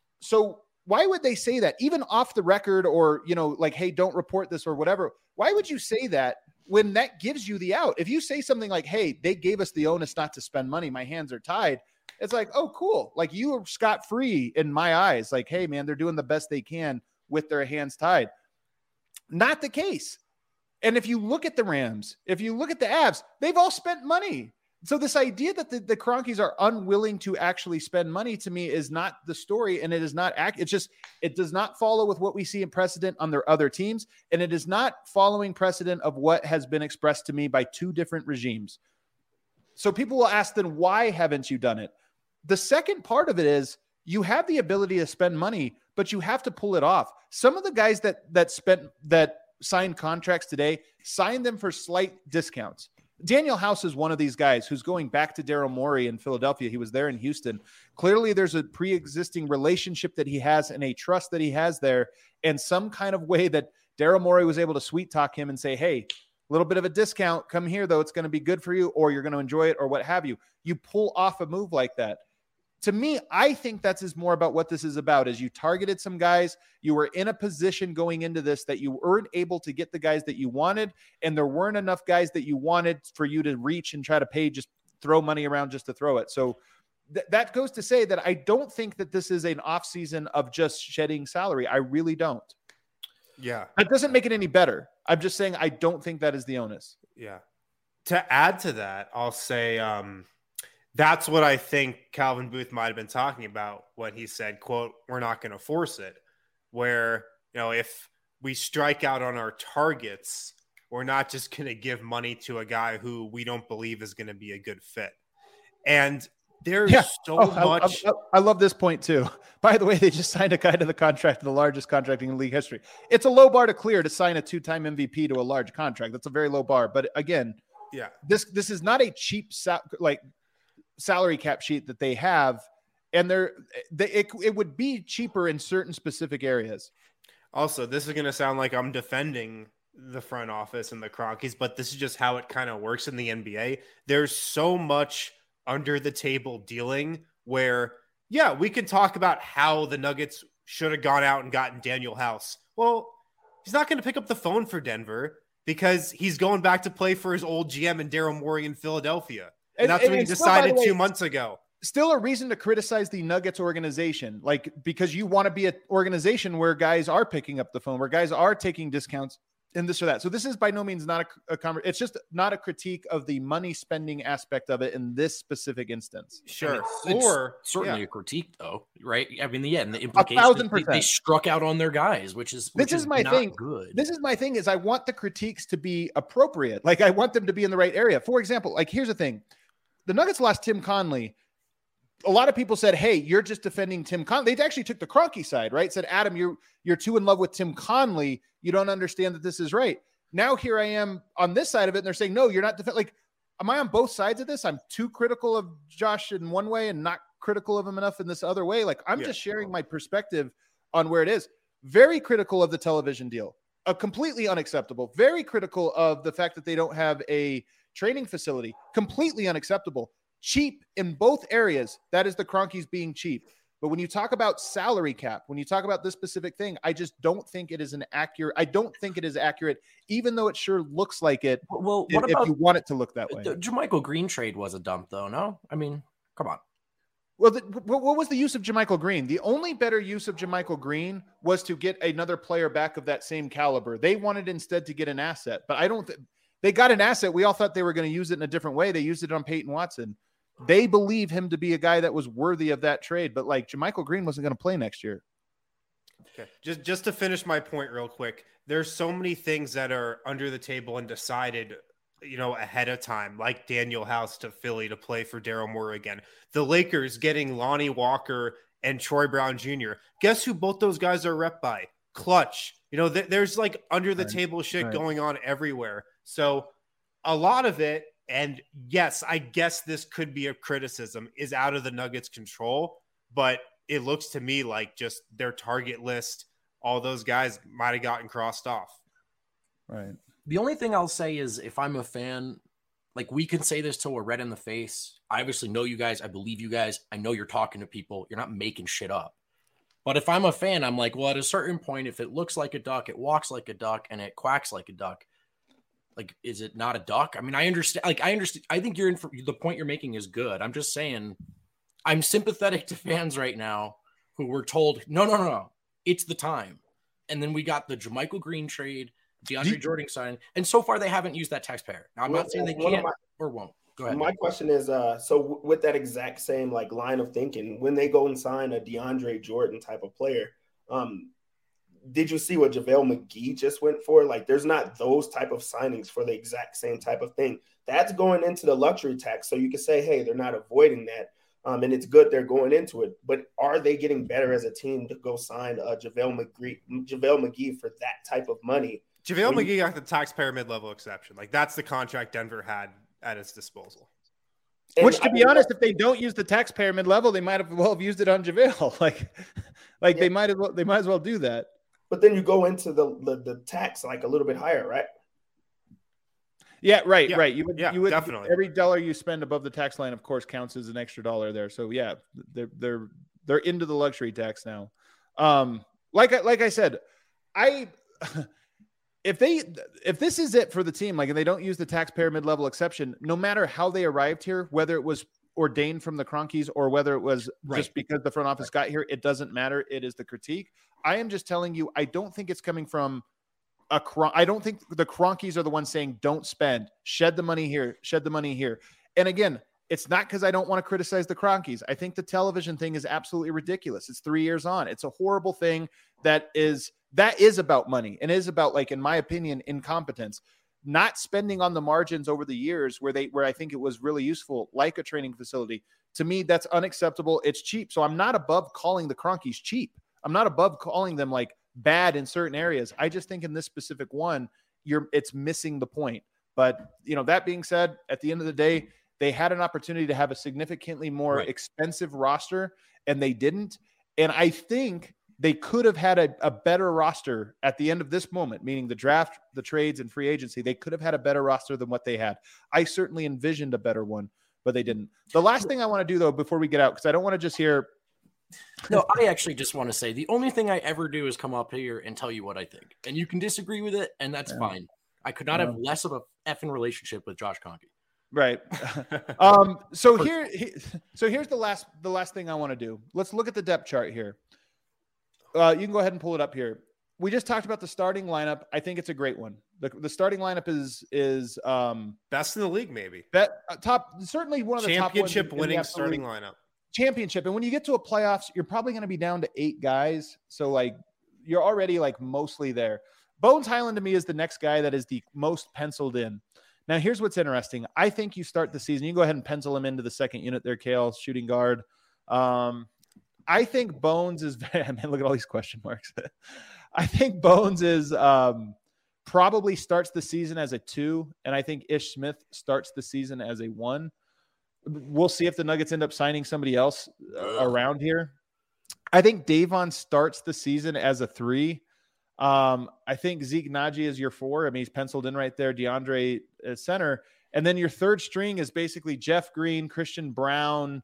So why would they say that even off the record or, you know, like, hey, don't report this or whatever? Why would you say that when that gives you the out? If you say something like, hey, they gave us the onus not to spend money, my hands are tied. It's like, oh, cool. Like you are scot-free in my eyes. Like, hey, man, they're doing the best they can with their hands tied. Not the case. And if you look at the Rams, if you look at the Avs, they've all spent money. So this idea that the Cronkies are unwilling to actually spend money to me is not the story. And it is not it's just, it does not follow with what we see in precedent on their other teams. And it is not following precedent of what has been expressed to me by two different regimes. So people will ask then, why haven't you done it? The second part of it is you have the ability to spend money, but you have to pull it off. Some of the guys that signed contracts today, signed them for slight discounts. Daniel House is one of these guys who's going back to Daryl Morey in Philadelphia. He was there in Houston. Clearly there's a pre-existing relationship that he has and a trust that he has there, and some kind of way that Daryl Morey was able to sweet talk him and say, hey, a little bit of a discount, come here though, it's going to be good for you, or you're going to enjoy it, or what have you. You pull off a move like that. To me, I think that's more about what this is about, is you targeted some guys. You were in a position going into this that you weren't able to get the guys that you wanted, and there weren't enough guys that you wanted for you to reach and try to pay, just throw money around just to throw it. So that goes to say that I don't think that this is an off season of just shedding salary. I really don't. Yeah. That doesn't make it any better. I'm just saying I don't think that is the onus. Yeah. To add to that, I'll say that's what I think Calvin Booth might have been talking about when he said, quote, we're not going to force it. Where, you know, if we strike out on our targets, we're not just going to give money to a guy who we don't believe is going to be a good fit. And there's much. I love this point too. By the way, they just signed a guy to the contract, the largest contracting in league history. It's a low bar to clear to sign a two-time MVP to a large contract. That's a very low bar. But again, yeah, this is not a cheap salary cap sheet that they have, and it would be cheaper in certain specific areas. Also, this is going to sound like I'm defending the front office and the Cronkies, but this is just how it kind of works in the NBA. There's so much under the table dealing where, yeah, we can talk about how the Nuggets should have gone out and gotten Daniel House. Well, he's not going to pick up the phone for Denver because he's going back to play for his old GM and Daryl Morey in Philadelphia. And that's what he decided 2 months ago. Still a reason to criticize the Nuggets organization, like because you want to be an organization where guys are picking up the phone, where guys are taking discounts and this or that. So this is by no means not a conversation. It's just not a critique of the money spending aspect of it in this specific instance. Sure. Or certainly a critique though, right? I mean, and the implication 1,000%. They struck out on their guys, which is my thing. Good. This is my thing is I want the critiques to be appropriate. Like I want them to be in the right area. For example, like here's the thing. The Nuggets lost Tim Conley. A lot of people said, hey, you're just defending Tim Conley. They actually took the Kroenke side, right? Said, Adam, you're too in love with Tim Conley. You don't understand that this is right. Now here I am on this side of it, and they're saying, no, you're not like, am I on both sides of this? I'm too critical of Josh in one way and not critical of him enough in this other way. Like I'm just sharing my perspective on where it is. Very critical of the television deal. Completely unacceptable. Very critical of the fact that they don't have a training facility. Completely unacceptable. Cheap in both areas. That is the Kroenkes being cheap. But when you talk about salary cap, when you talk about this specific thing, I just don't think it is accurate, even though it sure looks like it. Well, if you want it to look that way. The JaMychal Green trade was a dump, though, no? I mean, come on. Well, what was the use of JaMychal Green? The only better use of JaMychal Green was to get another player back of that same caliber. They wanted instead to get an asset, but I don't they got an asset. We all thought they were going to use it in a different way. They used it on Peyton Watson. They believe him to be a guy that was worthy of that trade, but like JaMychal Green wasn't going to play next year. Okay. Just to finish my point real quick, there's so many things that are under the table and decided, ahead of time, like Daniel House to Philly to play for Daryl Morey again. The Lakers getting Lonnie Walker and Troy Brown Jr. Guess who both those guys are rep by? Clutch. There's like under the table shit going on everywhere. So a lot of it, and yes, I guess this could be a criticism, is out of the Nuggets' control, but it looks to me like just their target list, all those guys might have gotten crossed off. Right. The only thing I'll say is if I'm a fan, like we can say this till we're red in the face. I obviously know you guys. I believe you guys. I know you're talking to people. You're not making shit up. But if I'm a fan, I'm like, well, at a certain point, if it looks like a duck, it walks like a duck, and it quacks like a duck, like, is it not a duck? I mean, I understand. Like, I understand. I think the point you're making is good. I'm just saying, I'm sympathetic to fans right now who were told, no, it's the time. And then we got the JaMychal Green trade, DeAndre Jordan sign, and so far they haven't used that taxpayer. Now, I'm not saying they can't or won't. Go ahead. My question is, so with that exact same like line of thinking, when they go and sign a DeAndre Jordan type of player, did you see what JaVale McGee just went for? Like, there's not those type of signings for the exact same type of thing. That's going into the luxury tax. So you can say, hey, they're not avoiding that. And it's good they're going into it. But are they getting better as a team to go sign JaVale McGee for that type of money? JaVale McGee got the taxpayer mid-level exception. Like, that's the contract Denver had at its disposal. Which, to be honest, if they don't use the taxpayer mid-level, they might have used it on JaVale. Like they might as well do that. But then you go into the tax like a little bit higher, right? Yeah, right. You would definitely. Every dollar you spend above the tax line, of course, counts as an extra dollar there. So yeah, they're into the luxury tax now. Like I said, if this is it for the team, like, and they don't use the taxpayer mid-level exception, no matter how they arrived here, whether it was ordained from the Kroenkes or whether it was just because the front office got here, it doesn't matter. It is the critique. I am just telling you, I don't think it's coming from I don't think the Kroenkes are the ones saying, don't spend, shed the money here. And again, it's not because I don't want to criticize the Kroenkes. I think the television thing is absolutely ridiculous. It's 3 years on. It's a horrible thing that is about money and is about, like, in my opinion, incompetence. Not spending on the margins over the years where I think it was really useful, like a training facility. To me, that's unacceptable. It's cheap. So I'm not above calling the Kroenkes cheap. I'm not above calling them like bad in certain areas. I just think in this specific one, it's missing the point. But, that being said, at the end of the day, they had an opportunity to have a significantly more expensive roster, and they didn't. And I think they could have had a better roster at the end of this moment, meaning the draft, the trades, and free agency. They could have had a better roster than what they had. I certainly envisioned a better one, but they didn't. The last thing I want to do, though, before we get out, because I don't want to just hear... No, I actually just want to say the only thing I ever do is come up here and tell you what I think. And you can disagree with it, and that's fine. I could not have less of a effing relationship with Josh Kroenke. Right. So here's the last thing I want to do. Let's look at the depth chart here. You can go ahead and pull it up here. we just talked about the starting lineup. I think it's a great one. The starting lineup is best in the league, maybe. Top, certainly one of the championship top winning starting lineup. Championship. And when you get to a playoffs, you're probably going to be down to 8 guys. So like you're already like mostly there. Bones Hyland to me is the next guy that is the most penciled in. Now here's what's interesting. I think you start the season. You can go ahead and pencil him into the second unit there, Kale, shooting guard. I think Bones is, man, look at all these question marks. I think Bones is probably starts the season as a 2, and I think Ish Smith starts the season as a 1. We'll see if the Nuggets end up signing somebody else around here. I think Davon starts the season as a 3. I think Zeke Naji is your 4. I mean, he's penciled in right there. DeAndre is center. And then your third string is basically Jeff Green, Christian Brown,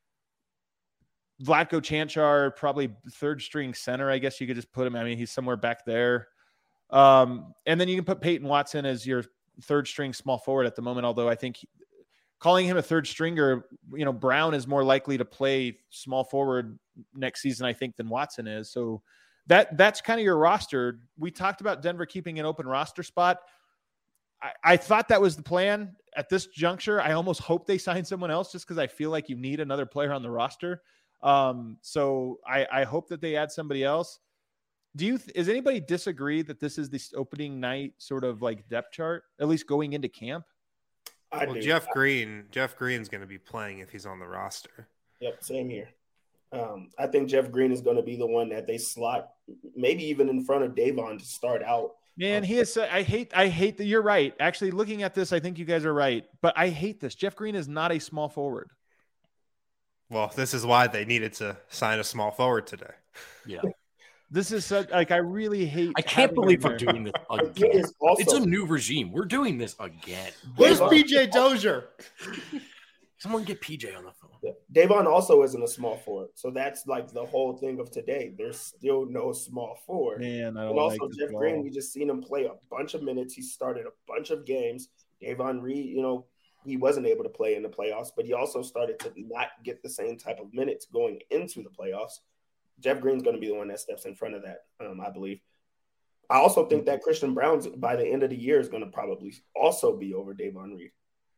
Vlatko Chanchar, probably third string center. I guess you could just put him. I mean, he's somewhere back there. And then you can put Peyton Watson as your third string small forward at the moment. Although I think calling him a third stringer, Brown is more likely to play small forward next season, I think, than Watson is. So that's kind of your roster. We talked about Denver keeping an open roster spot. I thought that was the plan at this juncture. I almost hope they sign someone else just because I feel like you need another player on the roster. So I hope that they add somebody else. Is anybody disagree that this is the opening night sort of like depth chart, at least going into camp? Jeff Green's going to be playing if he's on the roster. Yep. Same here. I think Jeff Green is going to be the one that they slot maybe even in front of Davon to start out. Man, he is. I hate that. You're right. Actually, looking at this, I think you guys are right, but I hate this. Jeff Green is not a small forward. Well, this is why they needed to sign a small forward today. Yeah. This is such, like, I really hate. I can't believe we're doing this again. It's a new regime. We're doing this again. Where's PJ Dozier? Someone get PJ on the phone. Yeah. Davon also isn't a small forward. So that's like the whole thing of today. There's still no small forward. Man, I don't and also like Jeff Green, we just seen him play a bunch of minutes. He started a bunch of games. Davon Reed, he wasn't able to play in the playoffs, but he also started to not get the same type of minutes going into the playoffs. Jeff Green's going to be the one that steps in front of that, I believe. I also think that Christian Brown, by the end of the year, is going to probably also be over Davon Reed.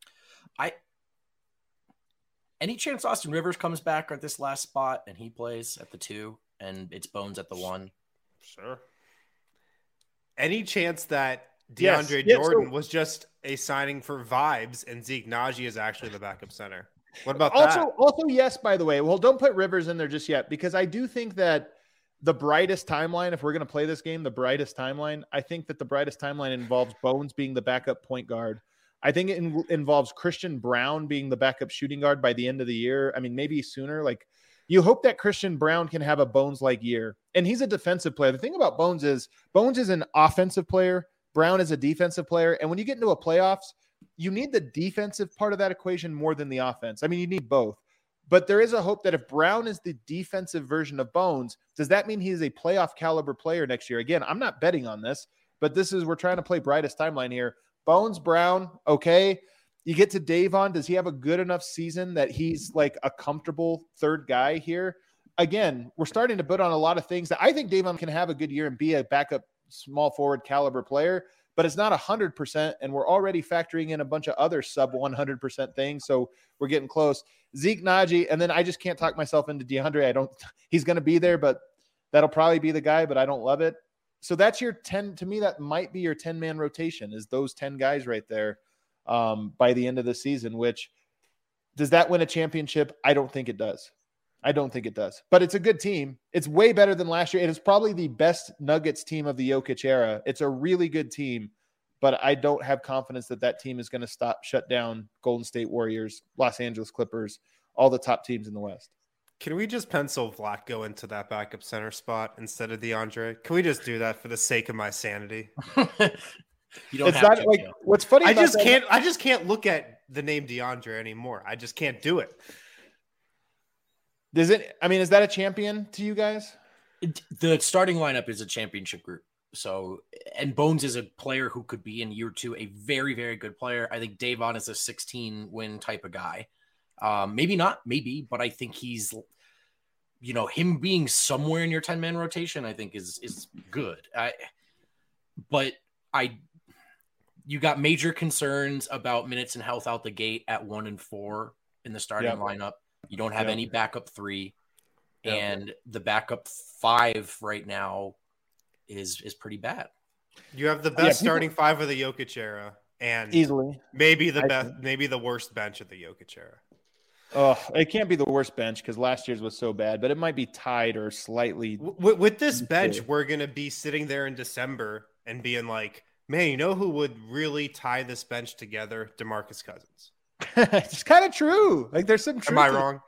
Any chance Austin Rivers comes back at this last spot and he plays at the 2 and it's Bones at the 1? Sure. Any chance that DeAndre Jordan was just a signing for vibes and Zeke Naji is actually the backup center? What about that? Also, yes, by the way. Well, don't put Rivers in there just yet because I do think that the brightest timeline, if we're going to play this game, I think that the brightest timeline involves Bones being the backup point guard. I think it involves Christian Brown being the backup shooting guard by the end of the year. I mean, maybe sooner. Like, you hope that Christian Brown can have a Bones-like year. And he's a defensive player. The thing about Bones is an offensive player. Brown is a defensive player. And when you get into a playoffs, you need the defensive part of that equation more than the offense. I mean, you need both. But there is a hope that if Brown is the defensive version of Bones, does that mean he is a playoff caliber player next year? Again, I'm not betting on this, but we're trying to play brightest timeline here. Bones, Brown, okay. You get to Davon. Does he have a good enough season that he's like a comfortable third guy here? Again, we're starting to put on a lot of things that I think Davon can have a good year and be a backup small forward caliber player, but it's not 100%. And we're already factoring in a bunch of other sub 100% things. So we're getting close. Zeke Naji. And then I just can't talk myself into DeAndre. He's going to be there, but that'll probably be the guy, but I don't love it. So that's your 10. To me, that might be your 10-man rotation is those 10 guys right there by the end of the season, which does that win a championship? I don't think it does. But it's a good team. It's way better than last year. It is probably the best Nuggets team of the Jokic era. It's a really good team, but I don't have confidence that team is going to shut down Golden State Warriors, Los Angeles Clippers, all the top teams in the West. Can we just pencil Vlatko into that backup center spot instead of DeAndre? Can we just do that for the sake of my sanity? You don't have to. Like, what's funny? I just can't look at the name DeAndre anymore. I just can't do it. Is that a champion to you guys? The starting lineup is a championship group. So, and Bones is a player who could be in year 2 a very, very good player. I think Davon is a 16-win type of guy. Maybe not, but I think he's him being somewhere in your 10-man rotation, I think is good. You got major concerns about minutes and health out the gate at 1 and 4 in the starting lineup. You don't have any backup 3, and the backup 5 right now is pretty bad. You have the best starting 5 of the Jokic era, and easily maybe the worst bench of the Jokic era. Oh, it can't be the worst bench because last year's was so bad, but it might be tied or slightly. With this bench, we're going to be sitting there in December and being like, man, you know who would really tie this bench together? DeMarcus Cousins. It's kind of true. Like there's some truth. Am I wrong?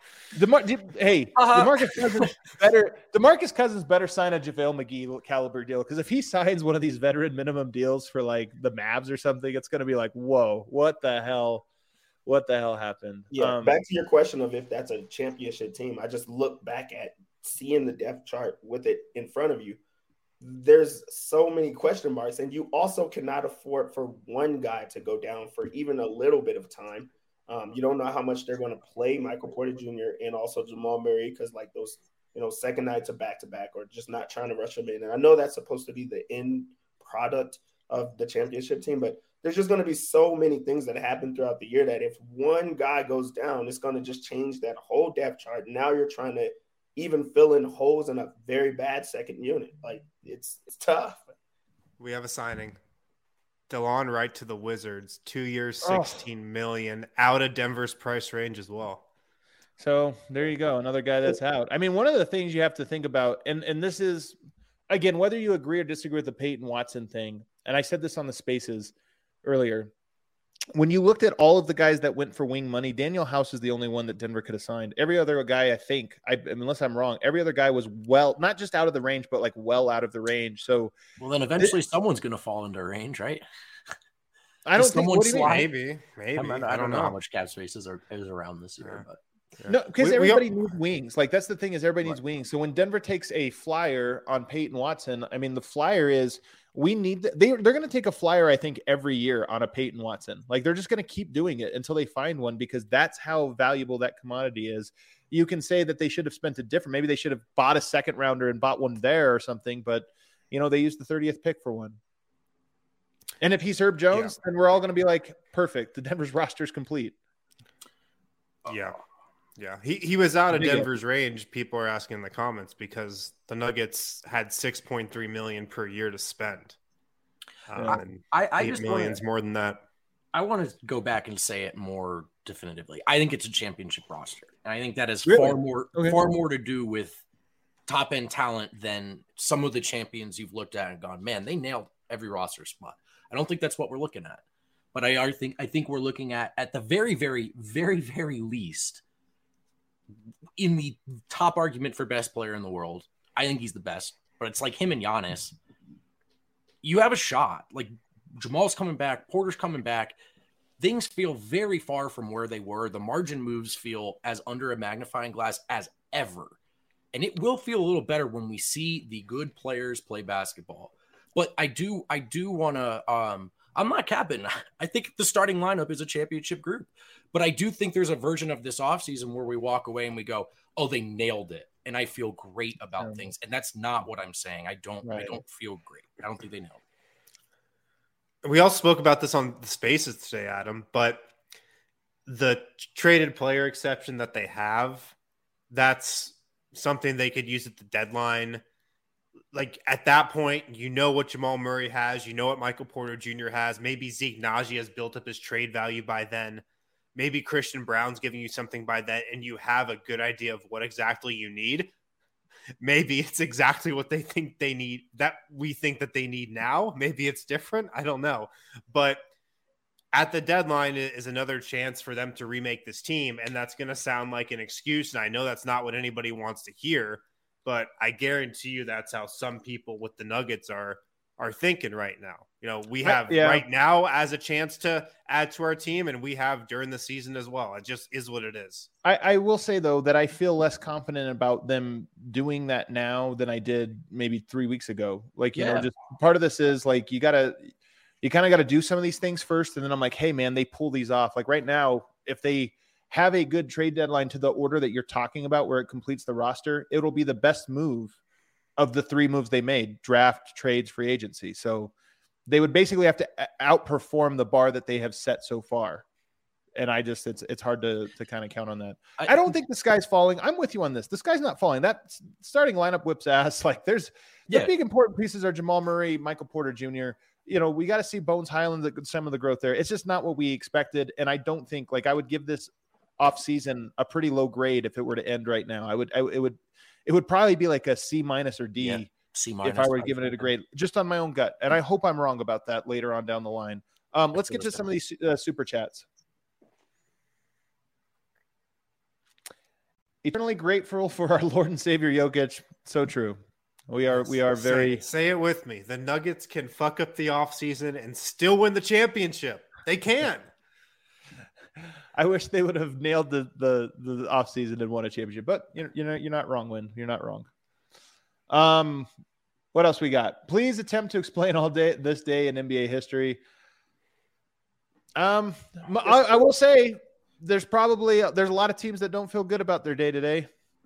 DeMarcus Cousins better. DeMarcus Cousins better sign a JaVale McGee caliber deal because if he signs one of these veteran minimum deals for like the Mavs or something, it's going to be like, whoa, what the hell? What the hell happened? Yeah, back to your question of if that's a championship team. I just look back at seeing the depth chart with it in front of you. There's so many question marks, and you also cannot afford for one guy to go down for even a little bit of time. You don't know how much they're going to play Michael Porter Jr. and also Jamal Murray because like those, second nights of back-to-back or just not trying to rush them in. And I know that's supposed to be the end product of the championship team, but there's just going to be so many things that happen throughout the year that if one guy goes down, it's going to just change that whole depth chart. Now you're trying to even fill in holes in a very bad second unit. Like it's tough. We have a signing. DeLon Wright to the Wizards, 2 years, $16 million, out of Denver's price range as well. So there you go. Another guy that's out. I mean, one of the things you have to think about, and this is, again, whether you agree or disagree with the Peyton Watson thing, and I said this on the Spaces earlier, when you looked at all of the guys that went for wing money, Daniel House is the only one that Denver could have signed. Every other guy, I think, unless I'm wrong, every other guy was not just out of the range, but like well out of the range. So, well, then eventually someo's going to fall into range, right? I don't think. What do you mean? Maybe. I don't know how much cap space is around this year, but. Yeah. No, because everybody needs wings. Like that's the thing is everybody needs wings. So when Denver takes a flyer on Peyton Watson, I mean the flyer is they're going to take a flyer I think every year on a Peyton Watson. Like they're just going to keep doing it until they find one because that's how valuable that commodity is. You can say that they should have spent maybe they should have bought a second rounder and bought one there or something, but they used the 30th pick for one. And if he's Herb Jones, then we're all going to be like, perfect. The Denver's roster is complete. Yeah. Yeah, he was out of Denver's range. People are asking in the comments because the Nuggets had $6.3 million per year to spend. And I $8 million more than that. I want to go back and say it more definitively. I think it's a championship roster, and I think that has far more to do with top end talent than some of the champions you've looked at and gone, man, they nailed every roster spot. I don't think that's what we're looking at, but I think we're looking at the very, very, very, very least. In the top argument for best player in the world, I think he's the best, but it's like him and Giannis. You have a shot. Like Jamal's coming back, Porter's coming back. Things feel very far from where they were. The margin moves feel as under a magnifying glass as ever. And it will feel a little better when we see the good players play basketball. But I do want to I'm not capping. I think the starting lineup is a championship group. But I do think there's a version of this offseason where we walk away and we go, oh, they nailed it. And I feel great about things. And that's not what I'm saying. I don't feel great. I don't think they nailed it. We all spoke about this on the Spaces today, Adam, but the traded player exception that they have, that's something they could use at the deadline. Like at that point, what Jamal Murray has, what Michael Porter Jr. has. Maybe Zeke Naji has built up his trade value by then. Maybe Christian Brown's giving you something by then, and you have a good idea of what exactly you need. Maybe it's exactly what they think they need, that we think that they need now. Maybe it's different. I don't know. But at the deadline is another chance for them to remake this team, and that's going to sound like an excuse, and I know that's not what anybody wants to hear, but I guarantee you that's how some people with the Nuggets are thinking right now. We have right now as a chance to add to our team, and we have during the season as well. It just is what it is. I will say, though, that I feel less confident about them doing that now than I did maybe 3 weeks ago. Like, just part of this is like you kind of got to do some of these things first. And then I'm like, hey, man, they pull these off. Like right now, if they have a good trade deadline to the order that you're talking about where it completes the roster, it'll be the best move of the 3 moves they made: draft, trades, free agency. So they would basically have to outperform the bar that they have set so far. And it's hard to kind of count on that. I don't think the sky's falling. I'm with you on this. The sky's not falling. That starting lineup whips ass. Like the big important pieces are Jamal Murray, Michael Porter Jr. We got to see Bones Highland, some of the growth there. It's just not what we expected. And I don't think I would give this off season a pretty low grade if it were to end right now. It would probably be like a C- or D. Yeah. C- if I were giving it a grade, just on my own gut. And I hope I'm wrong about that later on down the line. Let's get to some of these super chats. Eternally grateful for our Lord and Savior Jokic. So true. We are very. Say it with me. The Nuggets can fuck up the offseason and still win the championship. They can. I wish they would have nailed the offseason and won a championship, but you're not wrong, Win. You're not wrong. What else we got? Please attempt to explain this day in NBA history. I will say there's a lot of teams that don't feel good about their day today.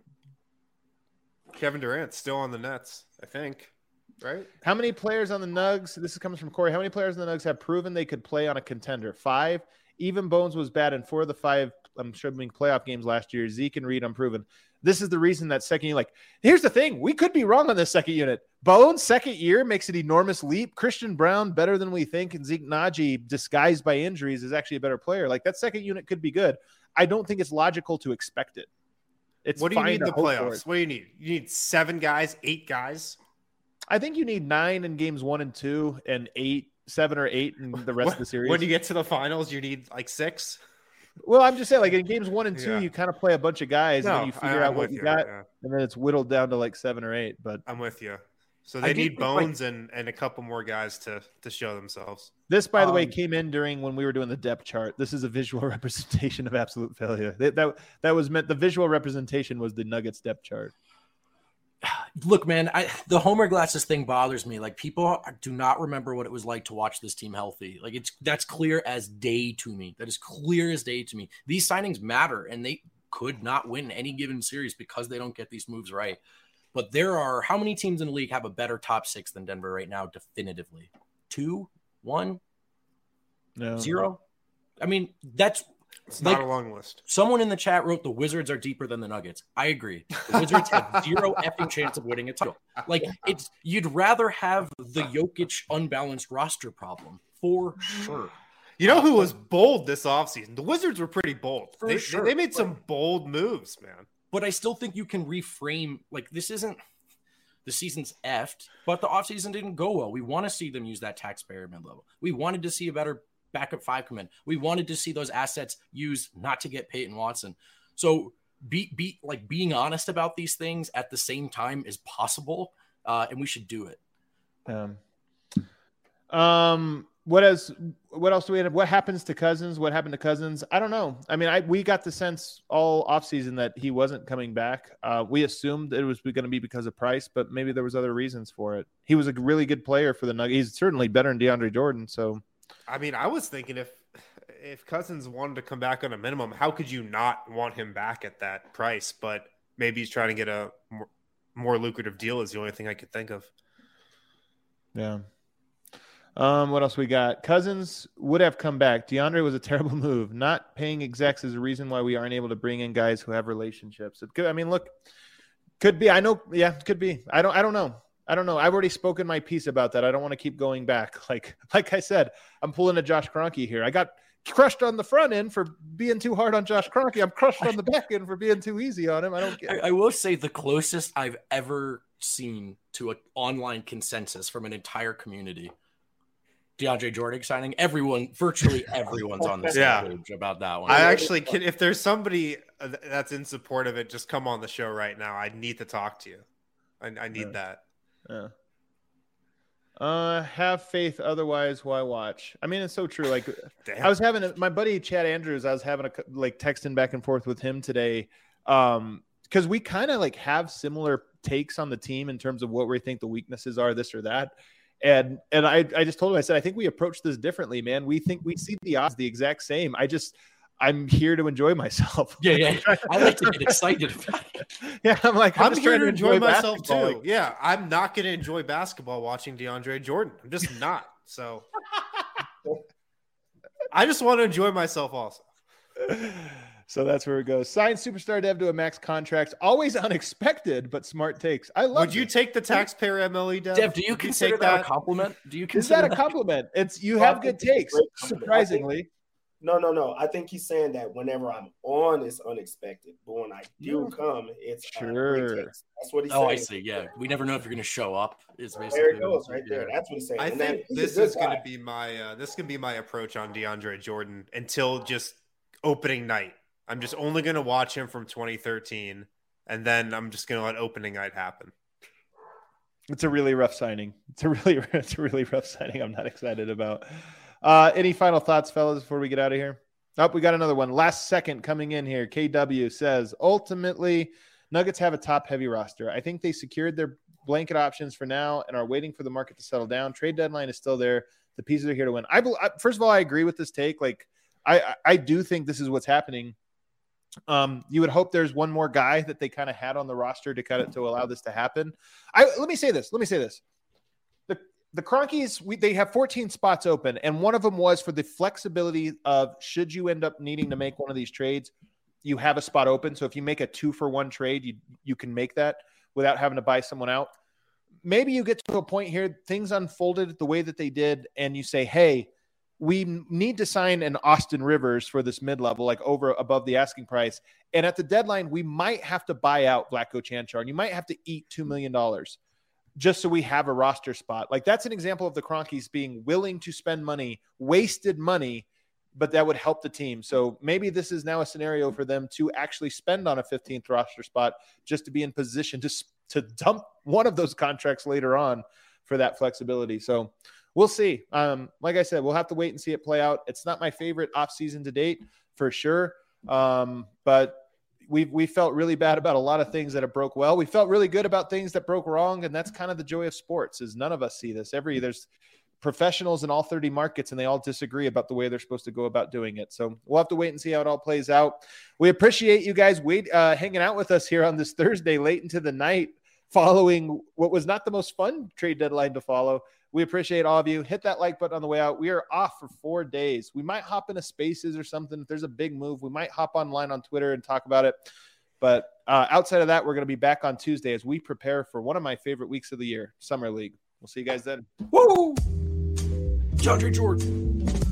Kevin Durant's still on the Nets, I think. Right? How many players on the Nugs? This comes from Corey. How many players on the Nugs have proven they could play on a contender? 5. Even Bones was bad in 4 of the 5, I'm sure, playoff games last year. Zeke and Reed unproven. This is the reason that second year, here's the thing. We could be wrong on this second unit. Bones, second year, makes an enormous leap. Christian Brown, better than we think. And Zeke Naji, disguised by injuries, is actually a better player. That second unit could be good. I don't think it's logical to expect it. What do you need in the playoffs? What do you need? You need 7 guys, 8 guys? I think you need 9 in games 1 and 2 and 7 or 8 in the rest of the series. When you get to the finals, you need 6? Well, I'm just saying, in games 1 and 2, you kind of play a bunch of guys and then you figure out what you got, and then it's whittled down to 7 or 8. But I'm with you. So they need Bones and a couple more guys to show themselves. This, by the way, came in during when we were doing the depth chart. This is a visual representation of absolute failure. That was meant. The visual representation was the Nuggets depth chart. Look, man, the Homer glasses thing bothers me. People do not remember what it was like to watch this team healthy. That's clear as day to me. That is clear as day to me. These signings matter, and they could not win any given series because they don't get these moves right. But there are how many teams in the league have a better top 6 than Denver right now? Definitively, 2, 1, no. 0. I mean, it's not a long list. Someone in the chat wrote the Wizards are deeper than the Nuggets. I agree. The Wizards have 0 effing chance of winning a title. You'd rather have the Jokic unbalanced roster problem for sure. You know who was bold this offseason? The Wizards were pretty bold. They made some bold moves, man. But I still think you can reframe. This isn't the season's effed, but the offseason didn't go well. We want to see them use that taxpayer mid level. We wanted to see a better backup 5 come in. We wanted to see those assets used not to get Peyton Watson. So being honest about these things at the same time is possible, and we should do it. What else do we have? What happens to Cousins? What happened to Cousins? I don't know. I mean, we got the sense all offseason that he wasn't coming back. We assumed it was going to be because of price, but maybe there was other reasons for it. He was a really good player for the Nuggets. He's certainly better than DeAndre Jordan. So, I mean, I was thinking if Cousins wanted to come back on a minimum, how could you not want him back at that price? But maybe he's trying to get a more lucrative deal is the only thing I could think of. Yeah. What else we got? Cousins would have come back. DeAndre was a terrible move. Not paying execs is a reason why we aren't able to bring in guys who have relationships. It could, could be. I know. Yeah, could be. I don't know. I've already spoken my piece about that. I don't want to keep going back. Like I said, I'm pulling a Josh Kroenke here. I got crushed on the front end for being too hard on Josh Kroenke. I'm crushed on the back end for being too easy on him. I will say the closest I've ever seen to an online consensus from an entire community. DeAndre Jordan signing. Virtually everyone's on the same page about that one. I actually can. If there's somebody that's in support of it, just come on the show right now. I need to talk to you. I need that. Yeah. Have faith. Otherwise, why watch? I mean, it's so true. I was having my buddy Chad Andrews. I was having texting back and forth with him today. Because we kind of have similar takes on the team in terms of what we think the weaknesses are, this or that. And I just told him, I said, I think we approach this differently, man. We think we see the odds the exact same. I'm here to enjoy myself. Yeah. I like to get excited about it. Yeah, I'm like, I'm here to enjoy myself basketball. too. Yeah, I'm not going to enjoy basketball watching DeAndre Jordan. I'm just not. So I just want to enjoy myself also. So that's where it goes. Sign superstar Dev to a max contract. Always unexpected, but smart takes. I love. Would you take the taxpayer MLE, Dev? Dev, do you consider that a compliment? Do you consider that a compliment? It's you have good takes. Surprisingly. No. I think he's saying that whenever I'm on, it's unexpected, but when I do come, it's sure. That's what he's saying. Oh, I see. Yeah, we never know if you're going to show up. Is basically there it goes right there. That's what he's saying. I think this is going to be my approach on DeAndre Jordan until just opening night. I'm just only going to watch him from 2013, and then I'm just going to let opening night happen. It's a really rough signing. It's a really rough signing. I'm not excited about. Any final thoughts, fellas, before we get out of here? Oh, we got another one. Last second coming in here. KW says, ultimately, Nuggets have a top-heavy roster. I think they secured their blanket options for now and are waiting for the market to settle down. Trade deadline is still there. The pieces are here to win. First of all, I agree with this take. Like, I do think this is what's happening. You would hope there's one more guy that they kind of had on the roster to allow this to happen. Let me say this. The Kroenkes, they have 14 spots open, and one of them was for the flexibility of should you end up needing to make one of these trades, you have a spot open. So if you make a 2-for-1 trade, you can make that without having to buy someone out. Maybe you get to a point here, things unfolded the way that they did, and you say, hey, we need to sign an Austin Rivers for this mid-level, like above the asking price. And at the deadline, we might have to buy out Vlatko Čančar, and you might have to eat $2 million just so we have a roster spot. Like, that's an example of the Kroenkes being willing to spend money, wasted money, but that would help the team. So maybe this is now a scenario for them to actually spend on a 15th roster spot just to be in position to dump one of those contracts later on for that flexibility. So we'll see. Like I said, we'll have to wait and see it play out. It's not my favorite offseason to date for sure. But we felt really bad about a lot of things that have broke well. We felt really good about things that broke wrong. And that's kind of the joy of sports, is none of us see this. There's professionals in all 30 markets, and they all disagree about the way they're supposed to go about doing it. So we'll have to wait and see how it all plays out. We appreciate you guys hanging out with us here on this Thursday late into the night, following what was not the most fun trade deadline to follow. We appreciate all of you. Hit that like button on the way out. We are off for 4 days. We might hop into Spaces or something. If there's a big move, we might hop online on Twitter and talk about it. But outside of that, we're going to be back on Tuesday as we prepare for one of my favorite weeks of the year, Summer League. We'll see you guys then. Woo! DeAndre Jordan.